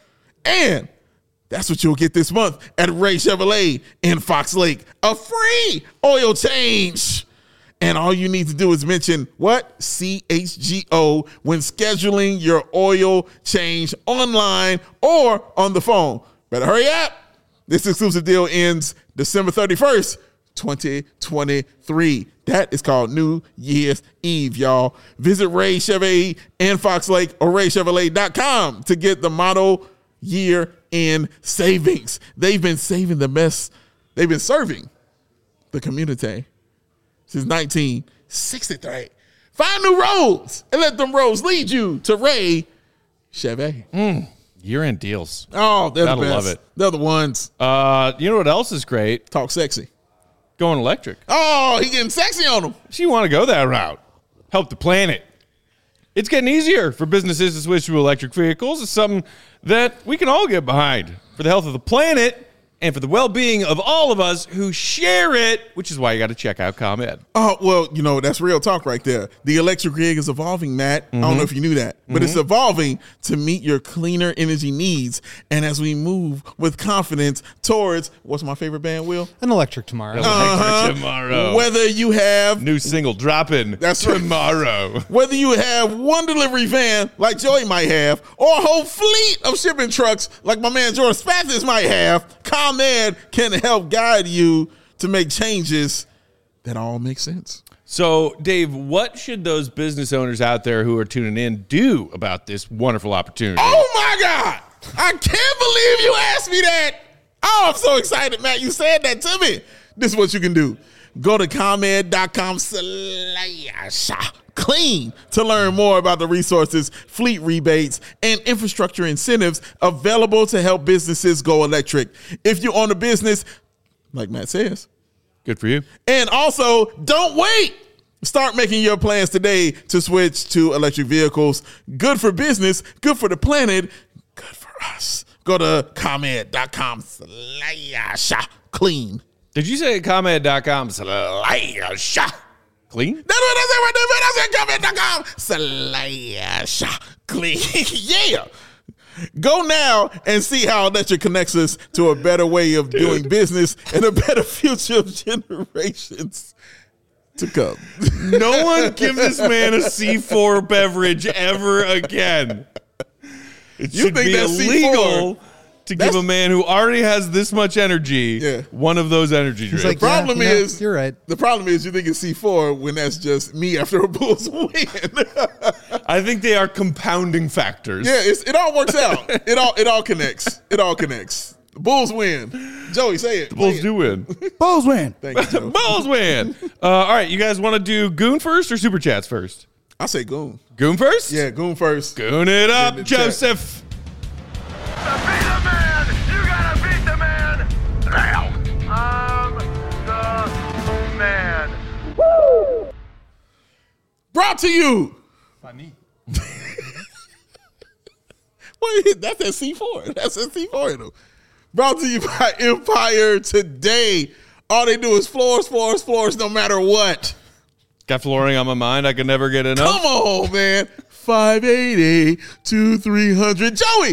And that's what you'll get this month at Ray Chevrolet in Fox Lake. A free oil change. And all you need to do is mention what? C H G O when scheduling your oil change online or on the phone. Better hurry up. This exclusive deal ends December thirty-first, twenty twenty-three. That is called New Year's Eve, y'all. Visit Ray Chevrolet in Fox Lake or ray chevrolet dot com to get the model year in savings. They've been saving the best. They've been serving the community since nineteen sixty-three. Find new roads and let them roads lead you to Ray Chevy. Year-end deals. Oh, they're Gotta the best. love it. They're the ones. Uh, you know what else is great? Talk sexy. Going electric. Oh, he getting sexy on them. So you want to go that route. Help the planet. It's getting easier for businesses to switch to electric vehicles. It's something that we can all get behind for the health of the planet and for the well-being of all of us who share it, which is why you got to check out ComEd. Oh, well, you know, that's real talk right there. The electric rig is evolving, Matt. I don't know if you knew that, but it's evolving to meet your cleaner energy needs. And as we move with confidence towards, what's my favorite band, Will? An electric tomorrow. Electric tomorrow. Whether you have New single dropping That's right. tomorrow. Whether you have one delivery van like Joey might have, or a whole fleet of shipping trucks like my man George Spathis might have, ComEd can help guide you to make changes that all make sense. So, Dave, what should those business owners out there who are tuning in do about this wonderful opportunity? Oh, my God. I can't believe you asked me that. Oh, I'm so excited, Matt. You said that to me. This is what you can do. Go to ComEd.com slash clean to learn more about the resources, fleet rebates, and infrastructure incentives available to help businesses go electric. If you own a business, like Matt says, Good for you. and also, don't wait. Start making your plans today to switch to electric vehicles. Good for business, good for the planet, good for us. Go to ComEd.com slash clean. Did you say ComEd.com slash clean? That's what I said right there, man. I said ComEd.com slash clean. Yeah. Go now and see how electric connects us to a better way of doing business and a better future of generations to come. No one give this man a C four beverage ever again. It You should think be that's C four? illegal to give That's- a man who already has this much energy Yeah. one of those energy drinks. like, The problem yeah, you know, is, you're right. The problem is, you think it's C four when that's just me after a Bulls win. I think they are compounding factors. Yeah, it's, it all works out. It all it all connects. It all connects. The Bulls win. Joey, say it. The Bulls Say do win. it. Bulls win. Thank you, Joe. Bulls win. Uh, all right, you guys want to do Goon first or Super Chats first? I say Goon. Goon first? Yeah, Goon first. Goon it up, Get in the chat. Joseph. To be the man, you gotta beat the man now. I'm the man. Brought to you. By me. Wait, that's at C four. That's at C four. Though. Brought to you by Empire Today. All they do is floors, floors, floors, no matter what. Got flooring on my mind. I can never get enough. Come on, man. five eighty to three hundred. Joey,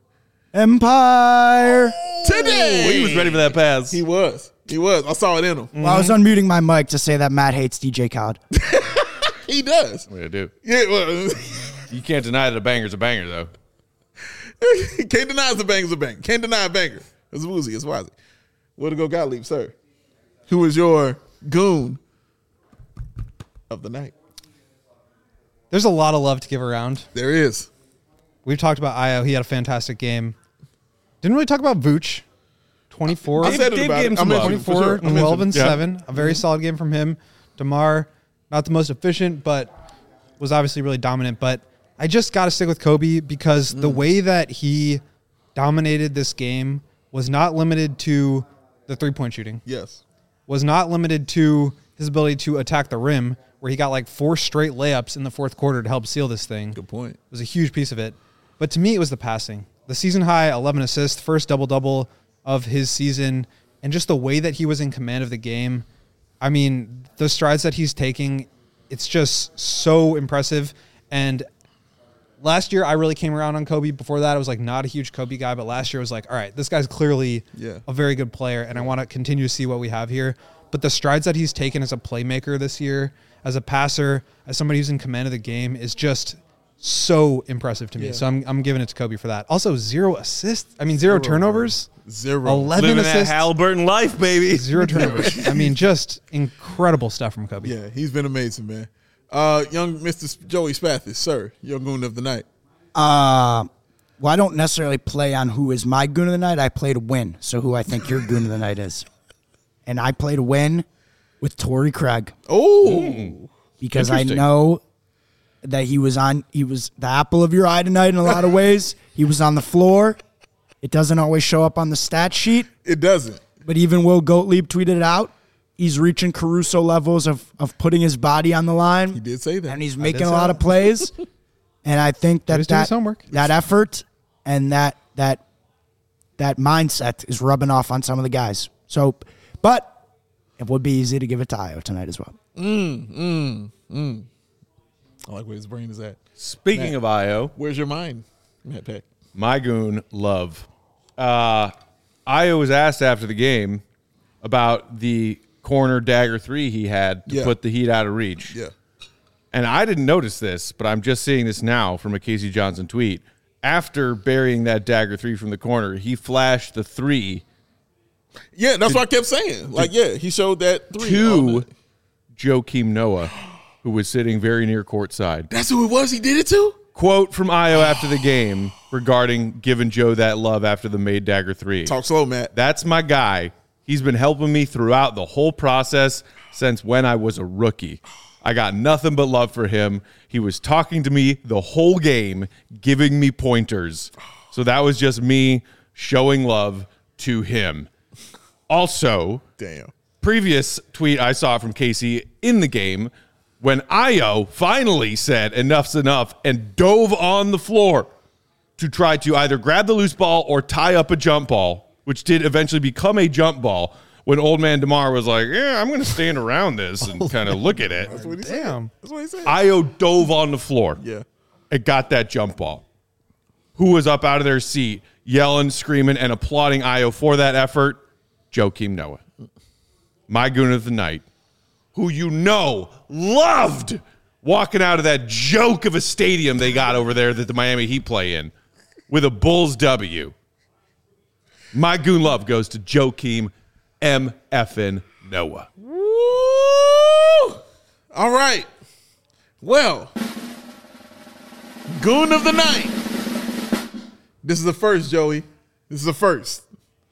Empire. today. Well, he was ready for that pass. He was. He was. I saw it in him. Well, I was unmuting my mic to say that Matt hates D J Khaled. He does. What do I do? Yeah, well, You can't deny that a banger's a banger, though. can't deny it's a banger's a banger. Can't deny a banger. It's Woozy. It's Wazzy. Way to go, Gottlieb, sir. Who is your goon of the night? There's a lot of love to give around. There is. We've talked about Io. He had a fantastic game. Didn't really talk about Vooch. twenty-four. I said it Dave about gave it. him I some mentioned love. it for twenty-four, sure. I twelve, mentioned and it. Yeah. seven. A very solid game from him. DeMar, not the most efficient, but was obviously really dominant. But I just got to stick with Kobe because the way that he dominated this game was not limited to the three-point shooting, Yes. was not limited to his ability to attack the rim, where he got like four straight layups in the fourth quarter to help seal this thing. Good point. It was a huge piece of it. But to me, it was the passing. The season high, eleven assists, first double-double of his season, and just the way that he was in command of the game. I mean, the strides that he's taking, it's just so impressive. And last year, I really came around on Kobe. Before that, I was like not a huge Kobe guy, but last year I was like, all right, this guy's clearly Yeah. a very good player, and I want to continue to see what we have here. But the strides that he's taken as a playmaker this year, as a passer, as somebody who's in command of the game, is just so impressive to me. Yeah. So I'm I'm giving it to Kobe for that. Also, zero assists. I mean, zero, Zero, turnovers. Zero. eleven Living that assists. Halliburton life, baby. Zero turnovers. I mean, just incredible stuff from Kobe. Yeah, he's been amazing, man. Uh, young Mister Joey Spathis, sir, your goon of the night. Uh, well, I don't necessarily play on who is my goon of the night. I play to win. So who I think your goon of the night is. And I play to win with Torrey Craig Oh, because I Interesting. know that he was on, he was the apple of your eye tonight in a lot of ways. He was on the floor. It doesn't always show up on the stat sheet, it doesn't. but even Will Gottlieb tweeted it out. He's reaching Caruso levels of, of putting his body on the line. He did say that. And he's did making a say lot that. of plays. And I think that was doing that, his homework. that effort and that that that mindset is rubbing off on some of the guys. So, but it would be easy to give it to Io tonight as well. I like where his brain is at. Speaking of Io, Where's your mind, Matt Peck? my goon, Love. Uh, Io was asked after the game about the corner dagger three he had to Yeah. put the Heat out of reach. Yeah. And I didn't notice this, but I'm just seeing this now from a Casey Johnson tweet. After burying that dagger three from the corner, he flashed the three Yeah, that's what I kept saying. Like, yeah, he showed that three. To Joakim Noah, who was sitting very near courtside. That's who it was he did it to? Quote from Io after the game regarding giving Joe that love after the made dagger three. Talk slow, Matt. That's my guy. He's been helping me throughout the whole process since when I was a rookie. I got nothing but love for him. He was talking to me the whole game, giving me pointers. So that was just me showing love to him. Also, Damn. previous tweet I saw from Casey in the game when Io finally said enough's enough and dove on the floor to try to either grab the loose ball or tie up a jump ball, which did eventually become a jump ball, when old man DeMar was like, yeah, I'm going to stand around this and kind of look at it. That's what he Damn. said. That's what he said. Io dove on the floor. Yeah. It got that jump ball. Who was up out of their seat, yelling, screaming, and applauding Io for that effort? Joakim Noah. My goon of the night, who you know loved walking out of that joke of a stadium they got over there that the Miami Heat play in with a Bulls W. My goon love goes to Joakim M. Effin Noah. Woo! All right. Well, goon of the night. This is the first, Joey. This is the first.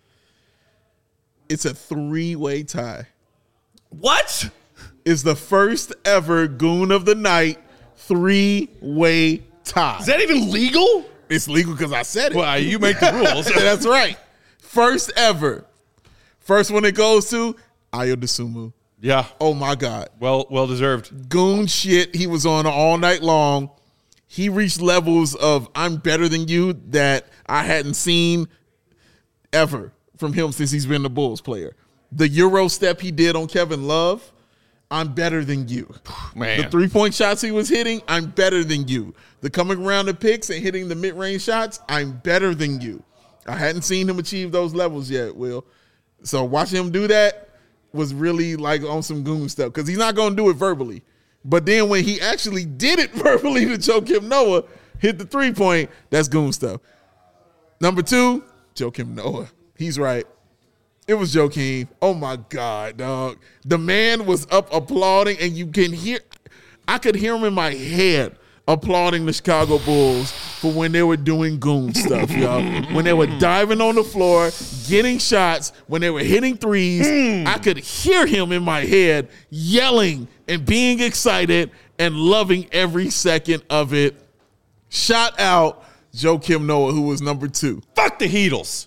It's a three-way tie. What? It's the first ever goon of the night three-way tie. Is that even legal? It's legal because I said it. Well, you make the rules. That's right. First ever. First one it goes to Ayo Dosunmu. Yeah. Oh my God. Well, well deserved. Goon shit he was on all night long. He reached levels of I'm better than you that I hadn't seen ever from him since he's been the Bulls player. The Euro step he did on Kevin Love, I'm better than you. Man. The three-point shots he was hitting, I'm better than you. The coming around the picks and hitting the mid-range shots, I'm better than you. I hadn't seen him achieve those levels yet, Will. So watching him do that was really like on some goon stuff because he's not going to do it verbally. But then when he actually did it verbally to Joakim Noah, hit the three-point, that's goon stuff. Number two, Joakim Noah. He's right. It was Joakim. Oh, my God, dog. The man was up applauding, and you can hear – I could hear him in my head applauding the Chicago Bulls for when they were doing goon stuff, y'all. When they were diving on the floor, getting shots, when they were hitting threes, I could hear him in my head yelling and being excited and loving every second of it. Shout out Joakim Noah, who was number two. Fuck the Heatles.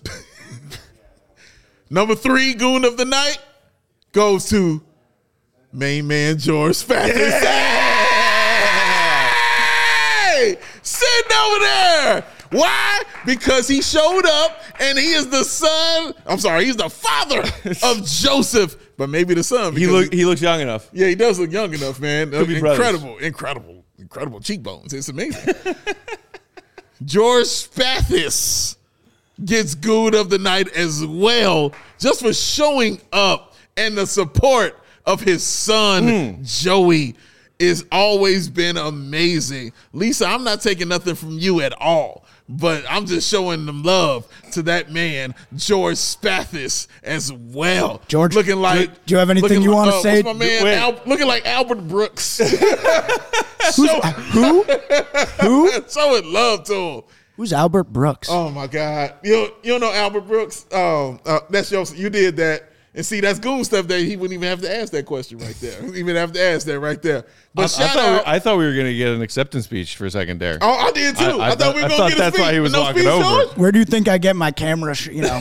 Number three goon of the night goes to main man George Spathis. Yeah! Hey! Sitting over there. Why? Because he showed up and he is the son. I'm sorry, he's the father of Joseph, but maybe the son. He look he looks young enough. Yeah, he does look young enough, man. Could be incredible, brothers. incredible, incredible cheekbones. It's amazing. George Spathis gets good of the night as well, just for showing up, and the support of his son, mm. Joey, is always been amazing. Lisa, I'm not taking nothing from you at all, but I'm just showing them love to that man, George Spathis, as well. George, looking like. do, do you have anything you want to uh, say? What's my man, Al, looking like Albert Brooks. Who's, who? Who? Showing love to him. Who's Albert Brooks? Oh my God! You don't, you don't know Albert Brooks? Oh, uh, that's your. You did that, and see that's goon stuff. That he wouldn't even have to ask that question right there. He wouldn't even have to ask that right there. But I, shout I thought, out. we, I thought we were going to get an acceptance speech for a second there. Oh, I did too. I, I- I thought thought- we were I gonna thought get a that's speech. why he was No walking speech, over. George? Where do you think I get my camera? Sh- you know,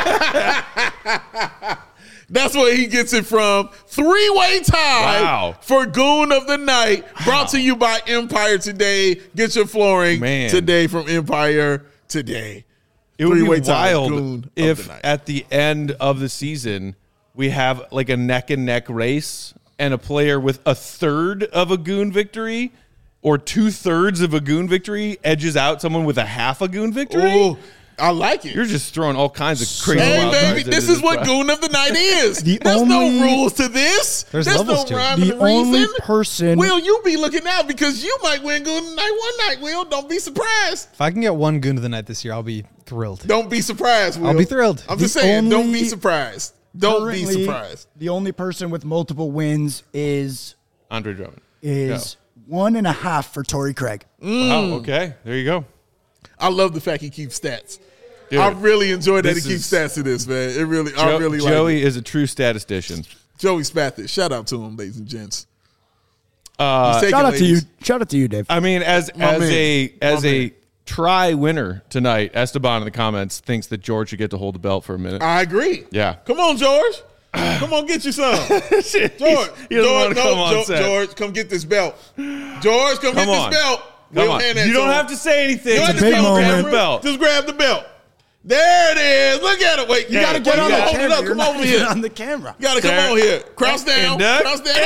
That's where he gets it from. Three-way tie Wow. for Goon of the Night. Brought to you by Empire Today. Get your flooring Man. today from Empire Today. It would Three-way be tie, wild Goon of if the Night. at the end of the season we have like a neck and neck race and a player with a third of a goon victory or two thirds of a goon victory edges out someone with a half a goon victory. Ooh, I like it. You're just throwing all kinds of crazy. Hey, wild baby, cards this into is what fight. Goon of the Night is. The There's only- no rules to this. There's There's levels no to it. rhyme The and reason. only person- Will, you be looking out because you might win Goon of the Night one night, Will. Don't be surprised. If I can get one goon of the night this year, I'll be thrilled. Don't be surprised, Will. I'll be thrilled. I'm just The saying, don't only- be surprised. Don't be Currently, surprised. The only person with multiple wins is Andre Drummond. is one and a half for Torrey Craig. Wow. Okay. There you go. I love the fact he keeps stats. Dude, I really enjoy that he this keeps is- stats to this, man. It really, I Jo- really like Joey it. is a true statistician. Joey Spathis. Shout out to him, ladies and gents. Uh, He's taking Shout out to you. ladies. Shout out to you, Dave. I mean, as My as man. a as My a man. try winner tonight, Esteban in the comments thinks that George should get to hold the belt for a minute. I agree. Yeah. Come on, George. Come on, get you some. George, he doesn't George, want to no, come on Jo- set. George, come get this belt. George, come, Come get on. this belt. Come We'll on. hand that You don't to him. have to say anything. You don't Just have to big tell him, moment. camera. belt. Just grab the belt. There it is. Look at it. Wait, you Yeah, gotta you get on gotta- the hold it up. You're Come not over even here. on the camera. You gotta come There. on here. Cross down. And up. Cross down.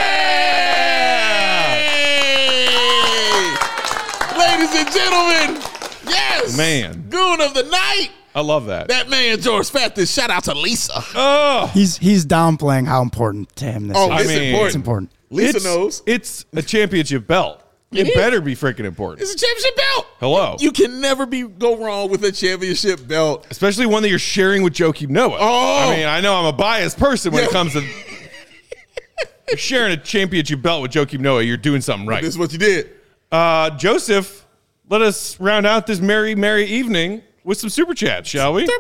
Hey! Ladies and gentlemen, yes. Man. Goon of the night. I love that. That man, George Spathis. Shout out to Lisa. oh, He's he's downplaying how important to him this Oh, is. it's mean, important. It's important. Lisa it's, knows. It's a championship belt. It, is. better be freaking important. It's a championship belt. Hello. You can never be go wrong with a championship belt. Especially one that you're sharing with Joakim Noah. Oh. I mean, I know I'm a biased person when Yeah. it comes to you're sharing a championship belt with Joakim Noah. You're doing something right. This is what you did. Uh, Joseph, let us round out this merry, merry evening with some super chats, shall we?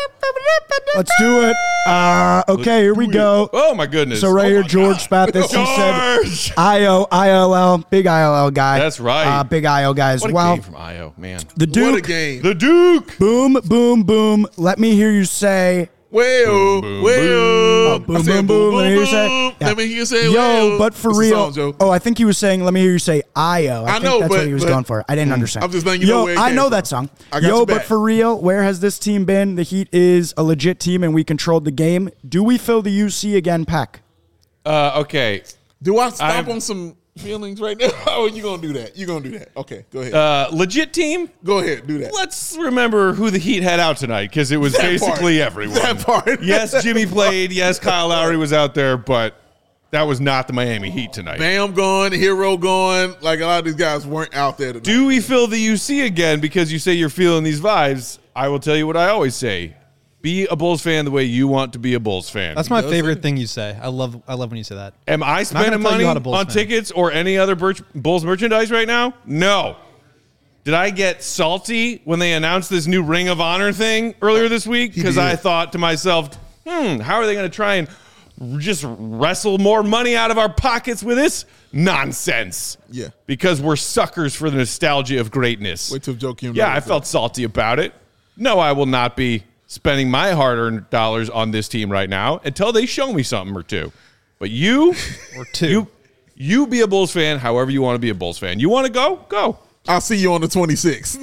Let's do it. Uh, okay, here we go. Oh my goodness! So right Oh here, my George God. Spathis, he George! said I O, I L L, big I L L guy. That's right. Uh, big I O guy as What a well. game from I O, man. The What a Duke, game. The Duke. boom, boom, boom. Let me hear you say, Well, boom, well. Oh, boom, I said boom, boom. Let me hear you say, yeah. Let me hear you say, yo, well. but for It's a real. song, Joe. Oh, I think he was saying, let me hear you say I O. I, I think know, that's but- what he was but- going for. I didn't understand. I'm just letting you Yo, know where it I came know from. that song. I got Yo, your but back. for real, where has this team been? The Heat is a legit team and we controlled the game. Do we fill the U C again, Peck? Uh, okay. Do I stop I'm- on some feelings right now? Oh, you gonna do that? You gonna do that? Okay, go ahead. Uh, legit team. go ahead, do that. Let's remember who the Heat had out tonight because it was That basically part. everyone. That part. Yes, Jimmy played. Yes, Kyle Lowry was out there, but that was not the Miami Heat tonight. Bam gone, Hero gone. Like a lot of these guys weren't out there tonight. Do we fill the U C again because you say you're feeling these vibes? I will tell you what I always say. Be a Bulls fan the way you want to be a Bulls fan. That's my does favorite say- thing you say. I love I love when you say that. Am I gonna spending tell you money how to Bulls on fan. tickets or any other Birch- Bulls merchandise right now? No. Did I get salty when they announced this new Ring of Honor thing earlier this week? Because did. I thought to myself, hmm, how are they going to try and just wrestle more money out of our pockets with this nonsense? Yeah. Because we're suckers for the nostalgia of greatness. Wait till Joakim. Yeah, knows I that. felt salty about it. No, I will not be spending my hard-earned dollars on this team right now until they show me something or two. But you, Or two. you, you be a Bulls fan however you want to be a Bulls fan. You want to go? Go. I'll see you on the twenty-sixth.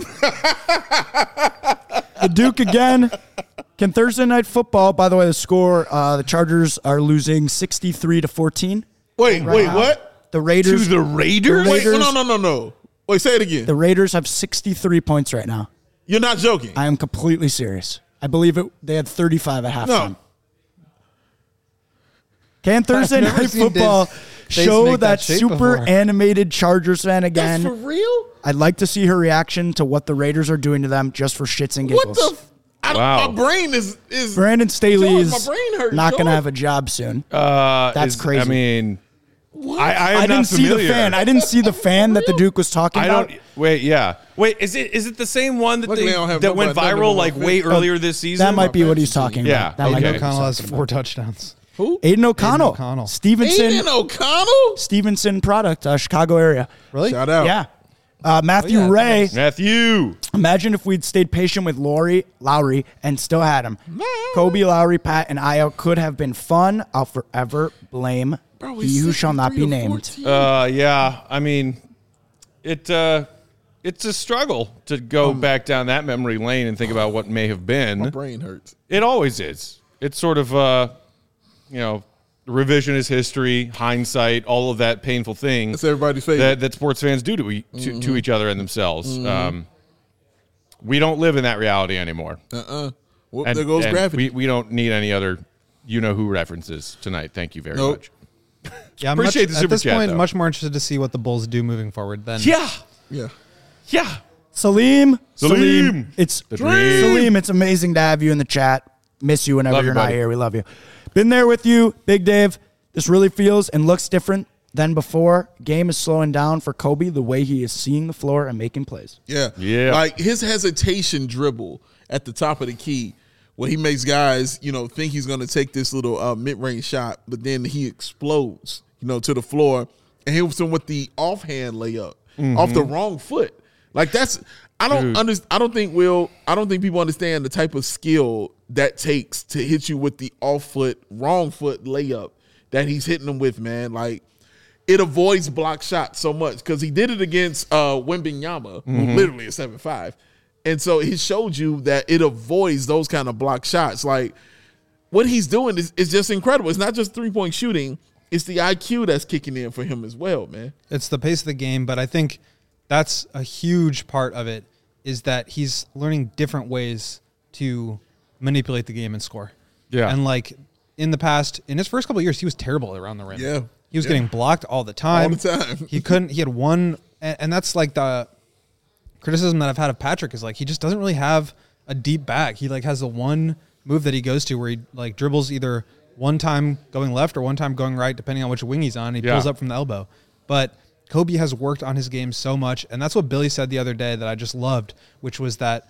The Duke again. Can Thursday night football, by the way, the score, uh, the Chargers are losing sixty-three to fourteen. Wait, right wait, now. what? The To Raiders, the Raiders? The Wait, Raiders- no, no, no, no. Wait, say it again. the Raiders have sixty-three points right now. You're not joking. I am completely serious. I believe it. They had thirty-five at halftime. No. Can Thursday never night seen football Dave's face show make that, that shape super before. animated Chargers fan again? That's for real? I'd like to see her reaction to what the Raiders are doing to them just for shits and giggles. What the? F- I, Wow. My brain is is. Brandon Staley George, is my brain hurts, not going to George. have a job soon. Uh, That's is- crazy. I mean, I, I am I not didn't see the familiar. fan. I didn't see the fan that the Duke was talking I about. don't. Wait, yeah. Wait, is it is it the same one that Luckily they, I don't have that went nobody- none of viral them like on way offense. earlier this season? That might be what he's fantasy talking team. about. Yeah, That might okay. be Aiden what he's O'Connell has talking four about. touchdowns. Who? Aiden O'Connell. O'Connell. Stevenson. Aiden O'Connell. Stevenson product, uh, Chicago area. Really? Shout out. Yeah. Uh, Matthew Oh, yeah, Ray. nice. Matthew. Imagine if we'd stayed patient with Lowry, Lowry and still had him. Kobe, Lowry, Pat, and Io could have been fun. I'll forever blame Bro, he he's who shall not be sixty-three to named. fourteen. Uh, yeah. I mean, it uh, it's a struggle to go Um, back down that memory lane and think about what may have My been. brain hurts. It always is. It's sort of uh, you know, revisionist history, hindsight, all of that painful thing That's everybody's favorite. that, that sports fans do to, e- to, to each other and themselves. Um, we don't live in that reality anymore. Uh-uh. Well, And, there goes and gravity. we, we don't need any other you-know-who references tonight. Thank you very Nope. much. Yeah, I'm Appreciate much, the at super this chat, point, though. much more interested to see what the Bulls do moving forward. Than Yeah. yeah. Yeah. Salim, Salim. it's The dream. Salim. It's amazing to have you in the chat. Miss you whenever Love you, you're not buddy. here. We love you. Been there with you, Big Dave. This really feels and looks different than before. Game is slowing down for Kobe. The way he is seeing the floor and making plays. Yeah. Yeah. Like his hesitation dribble at the top of the key where he makes guys, you know, think he's going to take this little uh, mid-range shot, but then he explodes, you know, to the floor and hits him with the offhand layup Mm-hmm. off the wrong foot. Like that's I don't under, I don't think Will I don't think people understand the type of skill that takes to hit you with the off foot, wrong foot layup that he's hitting them with, man. Like it avoids block shots so much because he did it against uh, Wembanyama, who literally is seven five. And so he showed you that it avoids those kind of block shots. Like what he's doing is, is just incredible. It's not just three-point shooting. It's the I Q that's kicking in for him as well, man. it's the pace of the game, but I think that's a huge part of it is that he's learning different ways to manipulate the game and score. Yeah. And like in the past, in his first couple of years, he was terrible around the rim. Yeah. He was Yeah. getting blocked all the time. All the time. He couldn't, he had one, and, and that's like the criticism that I've had of Patrick is like, he just doesn't really have a deep back. He like has the one move that he goes to where he like dribbles either one time going left or one time going right, depending on which wing he's on. He Yeah. pulls up from the elbow. But Kobe has worked on his game so much, and that's what Billy said the other day that I just loved, which was that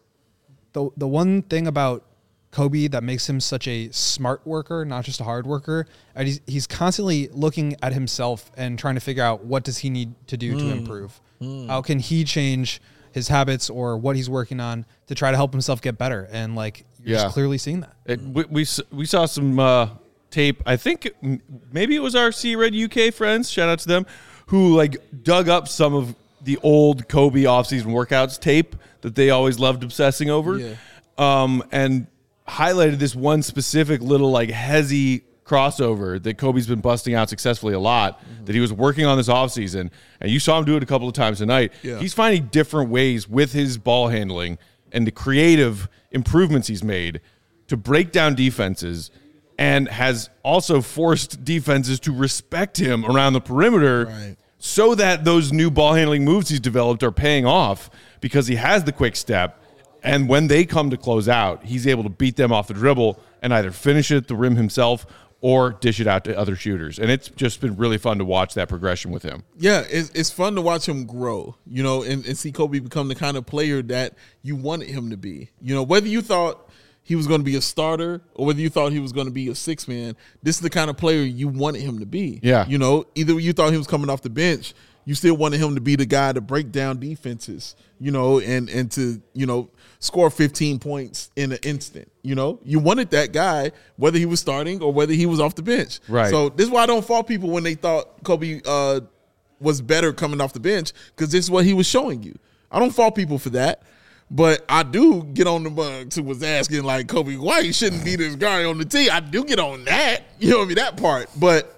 the the one thing about Kobe that makes him such a smart worker, not just a hard worker, and he's, he's constantly looking at himself and trying to figure out what does he need to do to improve. How can he change his habits or what he's working on to try to help himself get better? And like you're Yeah. just clearly seeing that. It, we, we s- we saw some uh, tape. I think m- maybe it was our C Red U K friends. Shout out to them who like dug up some of the old Kobe offseason workouts tape that they always loved obsessing over, Yeah. um, and highlighted this one specific little like hezzy crossover that Kobe's been busting out successfully a lot. Mm-hmm. That he was working on this offseason, and you saw him do it a couple of times tonight. Yeah. He's finding different ways with his ball handling and the creative improvements he's made to break down defenses, and has also forced defenses to respect him around the perimeter, Right. so that those new ball handling moves he's developed are paying off because he has the quick step. And when they come to close out, he's able to beat them off the dribble and either finish it at the rim himself or dish it out to other shooters. And it's just been really fun to watch that progression with him. Yeah, it's, it's fun to watch him grow, you know, and, and see Kobe become the kind of player that you wanted him to be. You know, whether you thought he was going to be a starter or whether you thought he was going to be a six man, this is the kind of player you wanted him to be. Yeah. You know, either you thought he was coming off the bench, you still wanted him to be the guy to break down defenses, you know, and, and to, you know, score fifteen points in an instant. You know, you wanted that guy, whether he was starting or whether he was off the bench. Right. So this is why I don't fault people when they thought Kobe uh, was better coming off the bench, because this is what he was showing you. I don't fault people for that. But I do get on the bugs who was asking, like, Kobe White shouldn't be this guy on the team. I do get on that. You know what I mean? That part. But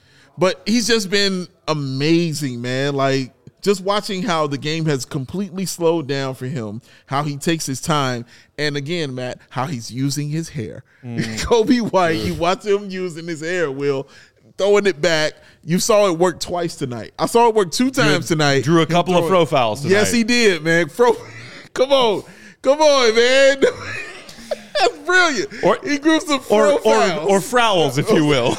but he's just been amazing, man. Like, just watching how the game has completely slowed down for him, how he takes his time, and again, Matt, how he's using his hair. Kobe White, you watch him using his hair, Will, throwing it back. You saw it work twice tonight. I saw it work two times tonight. Drew a couple Him of throwing- fro fouls tonight. Yes, he did, man. Fro, come on. Come on, man. That's brilliant. Or- he grew some Or, fro or, fouls. or frowls, if you will.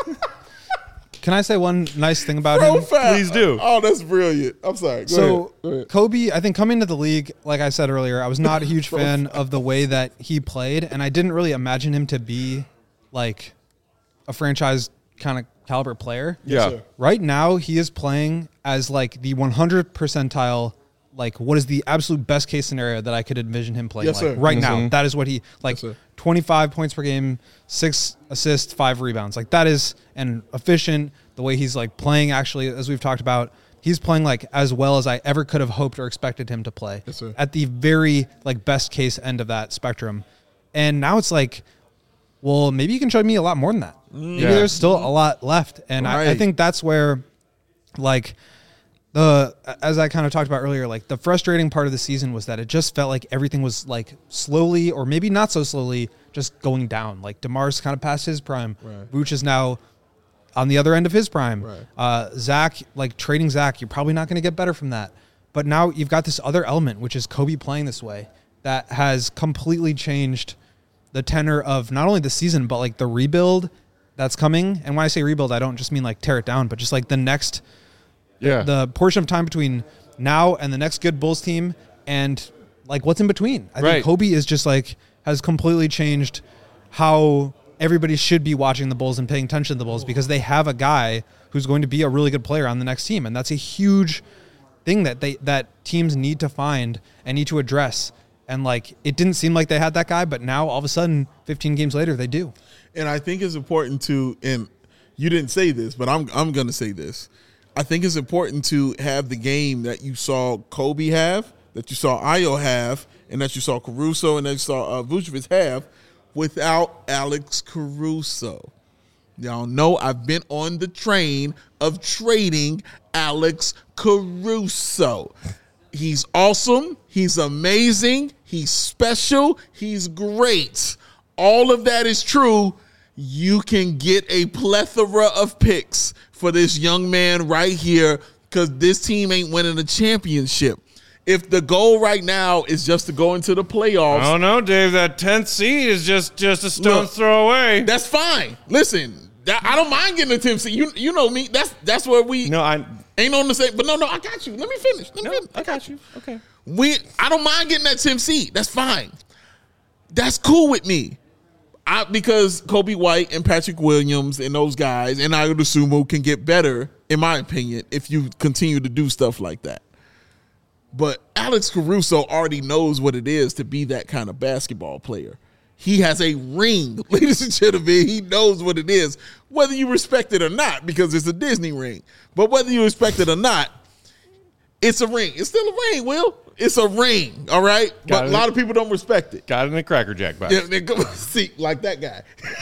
Can I say one nice thing about Fro him? fouls. Please do. Oh, that's brilliant. I'm sorry. Go So ahead. Go ahead. Kobe, I think coming to the league, like I said earlier, I was not a huge fan of the way that he played, and I didn't really imagine him to be like a franchise kind of caliber player. Yeah. sir. Right now, he is playing as like the one hundred percentile. Like, what is the absolute best case scenario that I could envision him playing? Yes, like sir. right Mhm. now, that is what he like. sir. twenty-five points per game, six assists, five rebounds. Like that is and efficient. The way he's like playing, actually, as we've talked about, he's playing like as well as I ever could have hoped or expected him to play. Yes, sir. At the very like best case end of that spectrum, and now it's like, well, maybe you can show me a lot more than that. Maybe Yeah. there's still a lot left, and I, I Right. think that's where, like, the as I kind of talked about earlier, like the frustrating part of the season was that it just felt like everything was like slowly, or maybe not so slowly, just going down. Like DeMar's kind of past his prime. Right. Vooch is now on the other end of his prime. Right. Uh, Zach, like trading Zach, you're probably not going to get better from that. But now you've got this other element, which is Kobe playing this way, that has completely changed the tenor of not only the season, but like the rebuild that's coming. And when I say rebuild, I don't just mean like tear it down, but just like the next, Yeah. the portion of time between now and the next good Bulls team and like what's in between. I Right. think Kobe is just like, has completely changed how everybody should be watching the Bulls and paying attention to the Bulls, because they have a guy who's going to be a really good player on the next team. And that's a huge thing that they, that teams need to find and need to address. And like, it didn't seem like they had that guy, but now all of a sudden, fifteen games later, they do. And I think it's important to, and you didn't say this, but I'm I'm going to say this. I think it's important to have the game that you saw Kobe have, that you saw Ayo have, and that you saw Caruso and that you saw uh, Vucevic have without Alex Caruso. Y'all know I've been on the train of trading Alex Caruso. He's awesome. He's amazing. He's special. He's great. All of that is true. You can get a plethora of picks for this young man right here, because this team ain't winning a championship. If the goal right now is just to go into the playoffs, I don't know, Dave. That tenth seed is just just a stone's Look, throw away. that's fine. Listen, that, I don't mind getting a tenth seed. You you know me. That's that's where we No, I. ain't on the same. But no, no, I got you. Let me finish. Let me No, finish. I got you. Okay. We I don't mind getting that tenth seed. That's fine. That's cool with me. I, because Kobe White and Patrick Williams and those guys and Ayo Dosunmu can get better, in my opinion, if you continue to do stuff like that. But Alex Caruso already knows what it is to be that kind of basketball player. He has a ring, ladies and gentlemen. He knows what it is, whether you respect it or not, because it's a Disney ring. But whether you respect it or not, it's a ring. It's still a ring, Will. It's a ring, all right? Got but it. a lot of people don't respect it. Got it in a Cracker Jack box. Yeah, they go, see, like that guy.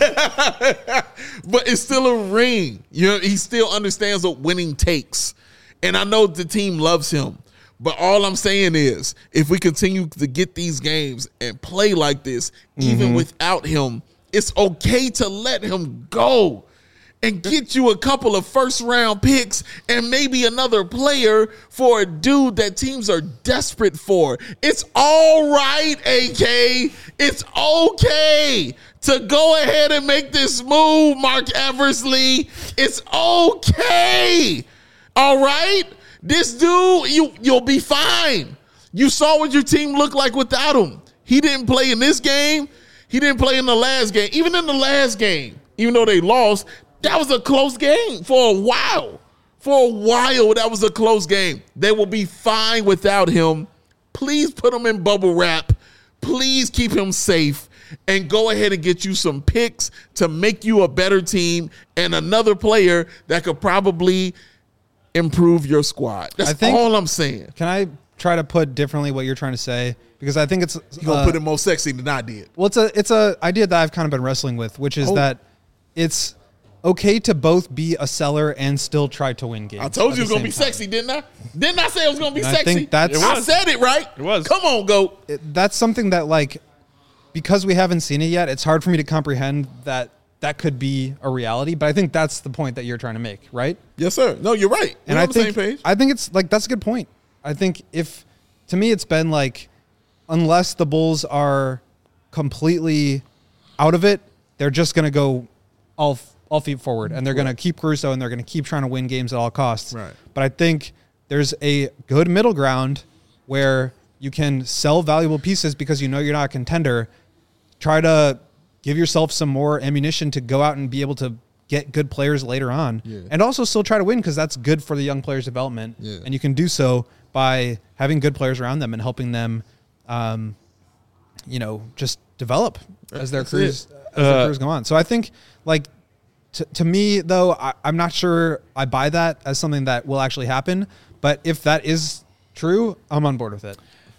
But it's still a ring. You know, he still understands what winning takes. And I know the team loves him. But all I'm saying is, if we continue to get these games and play like this, even Mm-hmm. without him, it's okay to let him go and get you a couple of first round picks and maybe another player for a dude that teams are desperate for. It's all right, A K. It's okay to go ahead and make this move, Mark Eversley. It's okay. All right? This dude, you, you'll be fine. You saw what your team looked like without him. He didn't play in this game. He didn't play in the last game. Even in the last game, even though they lost, that was a close game for a while. For a while, that was a close game. They will be fine without him. Please put him in bubble wrap. Please keep him safe. And go ahead and get you some picks to make you a better team and another player that could probably improve your squad. That's I think- all I'm saying. Can I try to put differently what you're trying to say? Because I think it's You're going to uh, put it more sexy than I did. well, it's a it's a idea that I've kind of been wrestling with, which is Oh. that it's okay to both be a seller and still try to win games. I told at you it was the going to be same time. sexy, didn't I? Didn't I say it was going to be I sexy? think that's- It I was. said it right. It was. Come on, GOAT. It- that's something that, like, because we haven't seen it yet, it's hard for me to comprehend that that could be a reality. But I think that's the point that you're trying to make, right? Yes, sir. No, you're right. We're And on I the think same page. I think it's like that's a good point. I think if to me it's been like unless the Bulls are completely out of it, they're just going to go all all feet forward and they're going to keep Caruso and they're going to keep trying to win games at all costs. Right. But I think there's a good middle ground where you can sell valuable pieces because you know you're not a contender. Try to give yourself some more ammunition to go out and be able to get good players later on, Yeah. and also still try to win because that's good for the young players' development. Yeah. And you can do so by having good players around them and helping them, um, you know, just develop as their That's careers it. as their Uh, careers go on. So I think, like, to, to me though, I, I'm not sure I buy that as something that will actually happen. But if that is true, I'm on board with it.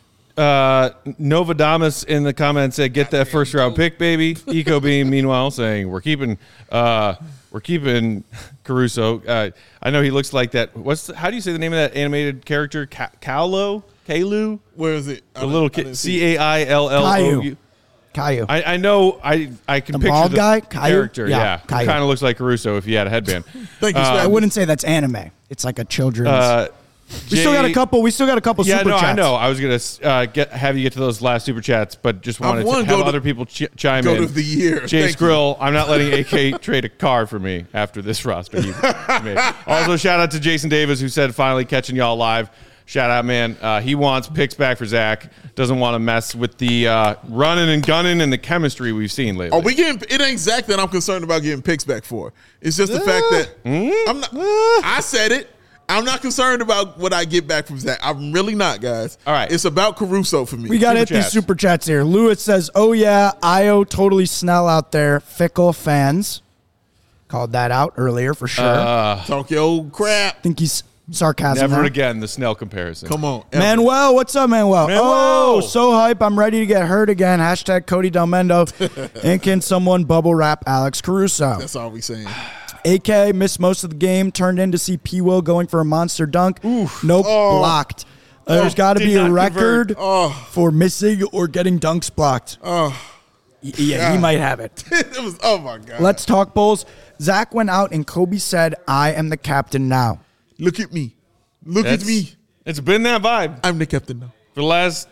Uh, Novadamus in the comments said, "Get that first round pick, baby." Eco Beam, meanwhile, saying, "We're keeping, uh, we're keeping Caruso." Uh, I know he looks like that. What's the, how do you say the name of that animated character? Ka- Kalu, Kalu, Where is it? the little kid. C A I L L O U. Caillou. I, I know. I I can The picture bald the guy? Caillou? character. Yeah, Yeah, Caillou. kind of looks like Caruso if he had a headband. Thank you, Uh, Spaz. I wouldn't say that's anime. It's like a children's. Uh, we still got a Jay- couple. We still got a couple Yeah, super no, chats. I know. I was gonna uh, get have you get to those last super chats, but just wanted wanna to have go to- other people ch- chime go in. to the year. Jay Thank you. Skrill, I'm not letting A K trade a car for me after this roster. He made. Also, shout out to Jason Davis who said finally catching y'all live. Shout out, man. Uh, he wants picks back for Zach. Doesn't want to mess with the uh, running and gunning and the chemistry we've seen lately. Are we getting? It ain't Zach that I'm concerned about getting picks back for. It's just the fact that Hmm? I'm not. I said it. I'm not concerned about what I get back from Zach. I'm really not, guys. All right. It's about Caruso for me. We got to hit Super these chats. super chats here. Lewis says, "Oh yeah, Io totally Snell out there. Fickle fans." Called that out earlier for sure. Uh, Talk your old crap. think he's sarcasm. Never there. again the Snell comparison. Come on, Manuel, what's up, Manuel? Manuel! Oh, so hype. I'm ready to get hurt again. Hashtag Cody Delmendo. And can someone bubble wrap Alex Caruso? That's all we saying. A K missed most of the game. Turned in to see P. Will going for a monster dunk. Nope, Oh. blocked. Uh, There's got to did be a not record convert. Oh. for missing or getting dunks blocked. Oh, Y- yeah, he God. might have it. it was. Oh my God. Let's talk Bulls. Zach went out and Kobe said, "I am the captain now." look at me. Look That's- at me. It's been that vibe I'm the captain now. for the last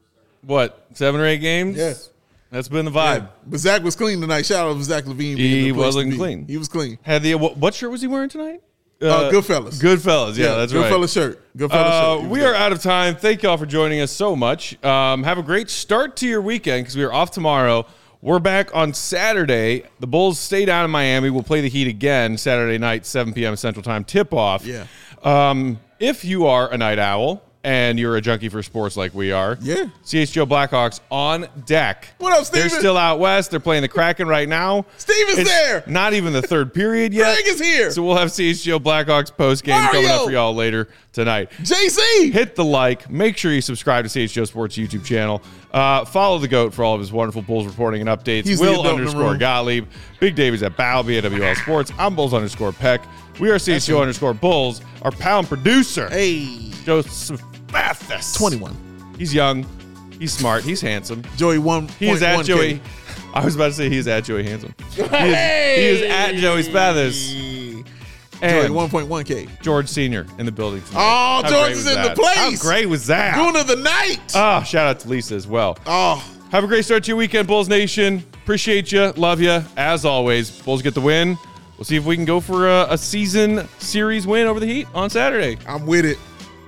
what seven or eight games. Yes. That's been the vibe. Yeah. But Zach was clean tonight. Shout out to Zach Levine. He being the place to wasn't be. clean. He was clean. Had the what, what shirt was he wearing tonight? Uh, Goodfellas. Goodfellas. Yeah, that's right. Goodfellas shirt. Goodfellas Uh, shirt. He was we good. are out of time. Thank y'all for joining us so much. Um, have a great start to your weekend because we are off tomorrow. We're back on Saturday. The Bulls stay down in Miami. We'll play the Heat again Saturday night, seven p.m. Central Time tip-off. Yeah. Um, if you are a night owl and you're a junkie for sports like we are, Yeah. C H G O Blackhawks on deck. What up, They're Steven? still out west. They're playing the Kraken right now. Steven's It's there. Not even the third period yet. Greg is here. So we'll have C H G O Blackhawks post game Mario. coming up for y'all later tonight. J C. Hit the like. Make sure you subscribe to C H G O Sports YouTube channel. Uh, follow the GOAT for all of his wonderful Bulls reporting and updates. He's the Will adult in the underscore room. Gottlieb. Big Davies at Balby at W L Sports. I'm Bulls underscore Peck. We are C H G O him. underscore Bulls. Our pound producer, Hey. Joseph Mathis. twenty-one. He's young. He's smart. He's handsome. Joey one. He is at Joey. I was about to say he is at Joey Handsome. He is, he is at Joey Spathis. Joey And one point one K. George Senior in the building tonight. Oh, How George great is was in the that? place. How great was that? Goon of the night. Oh, shout out to Lisa as well. Oh, Have a great start to your weekend, Bulls Nation. Appreciate you. Love you. As always, Bulls get the win. We'll see if we can go for a, a season series win over the Heat on Saturday. I'm with it.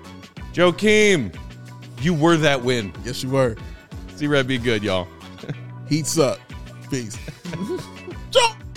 Joakim, you were that win. Yes, you were. See Red be good, y'all. Heats up. Peace. Jump.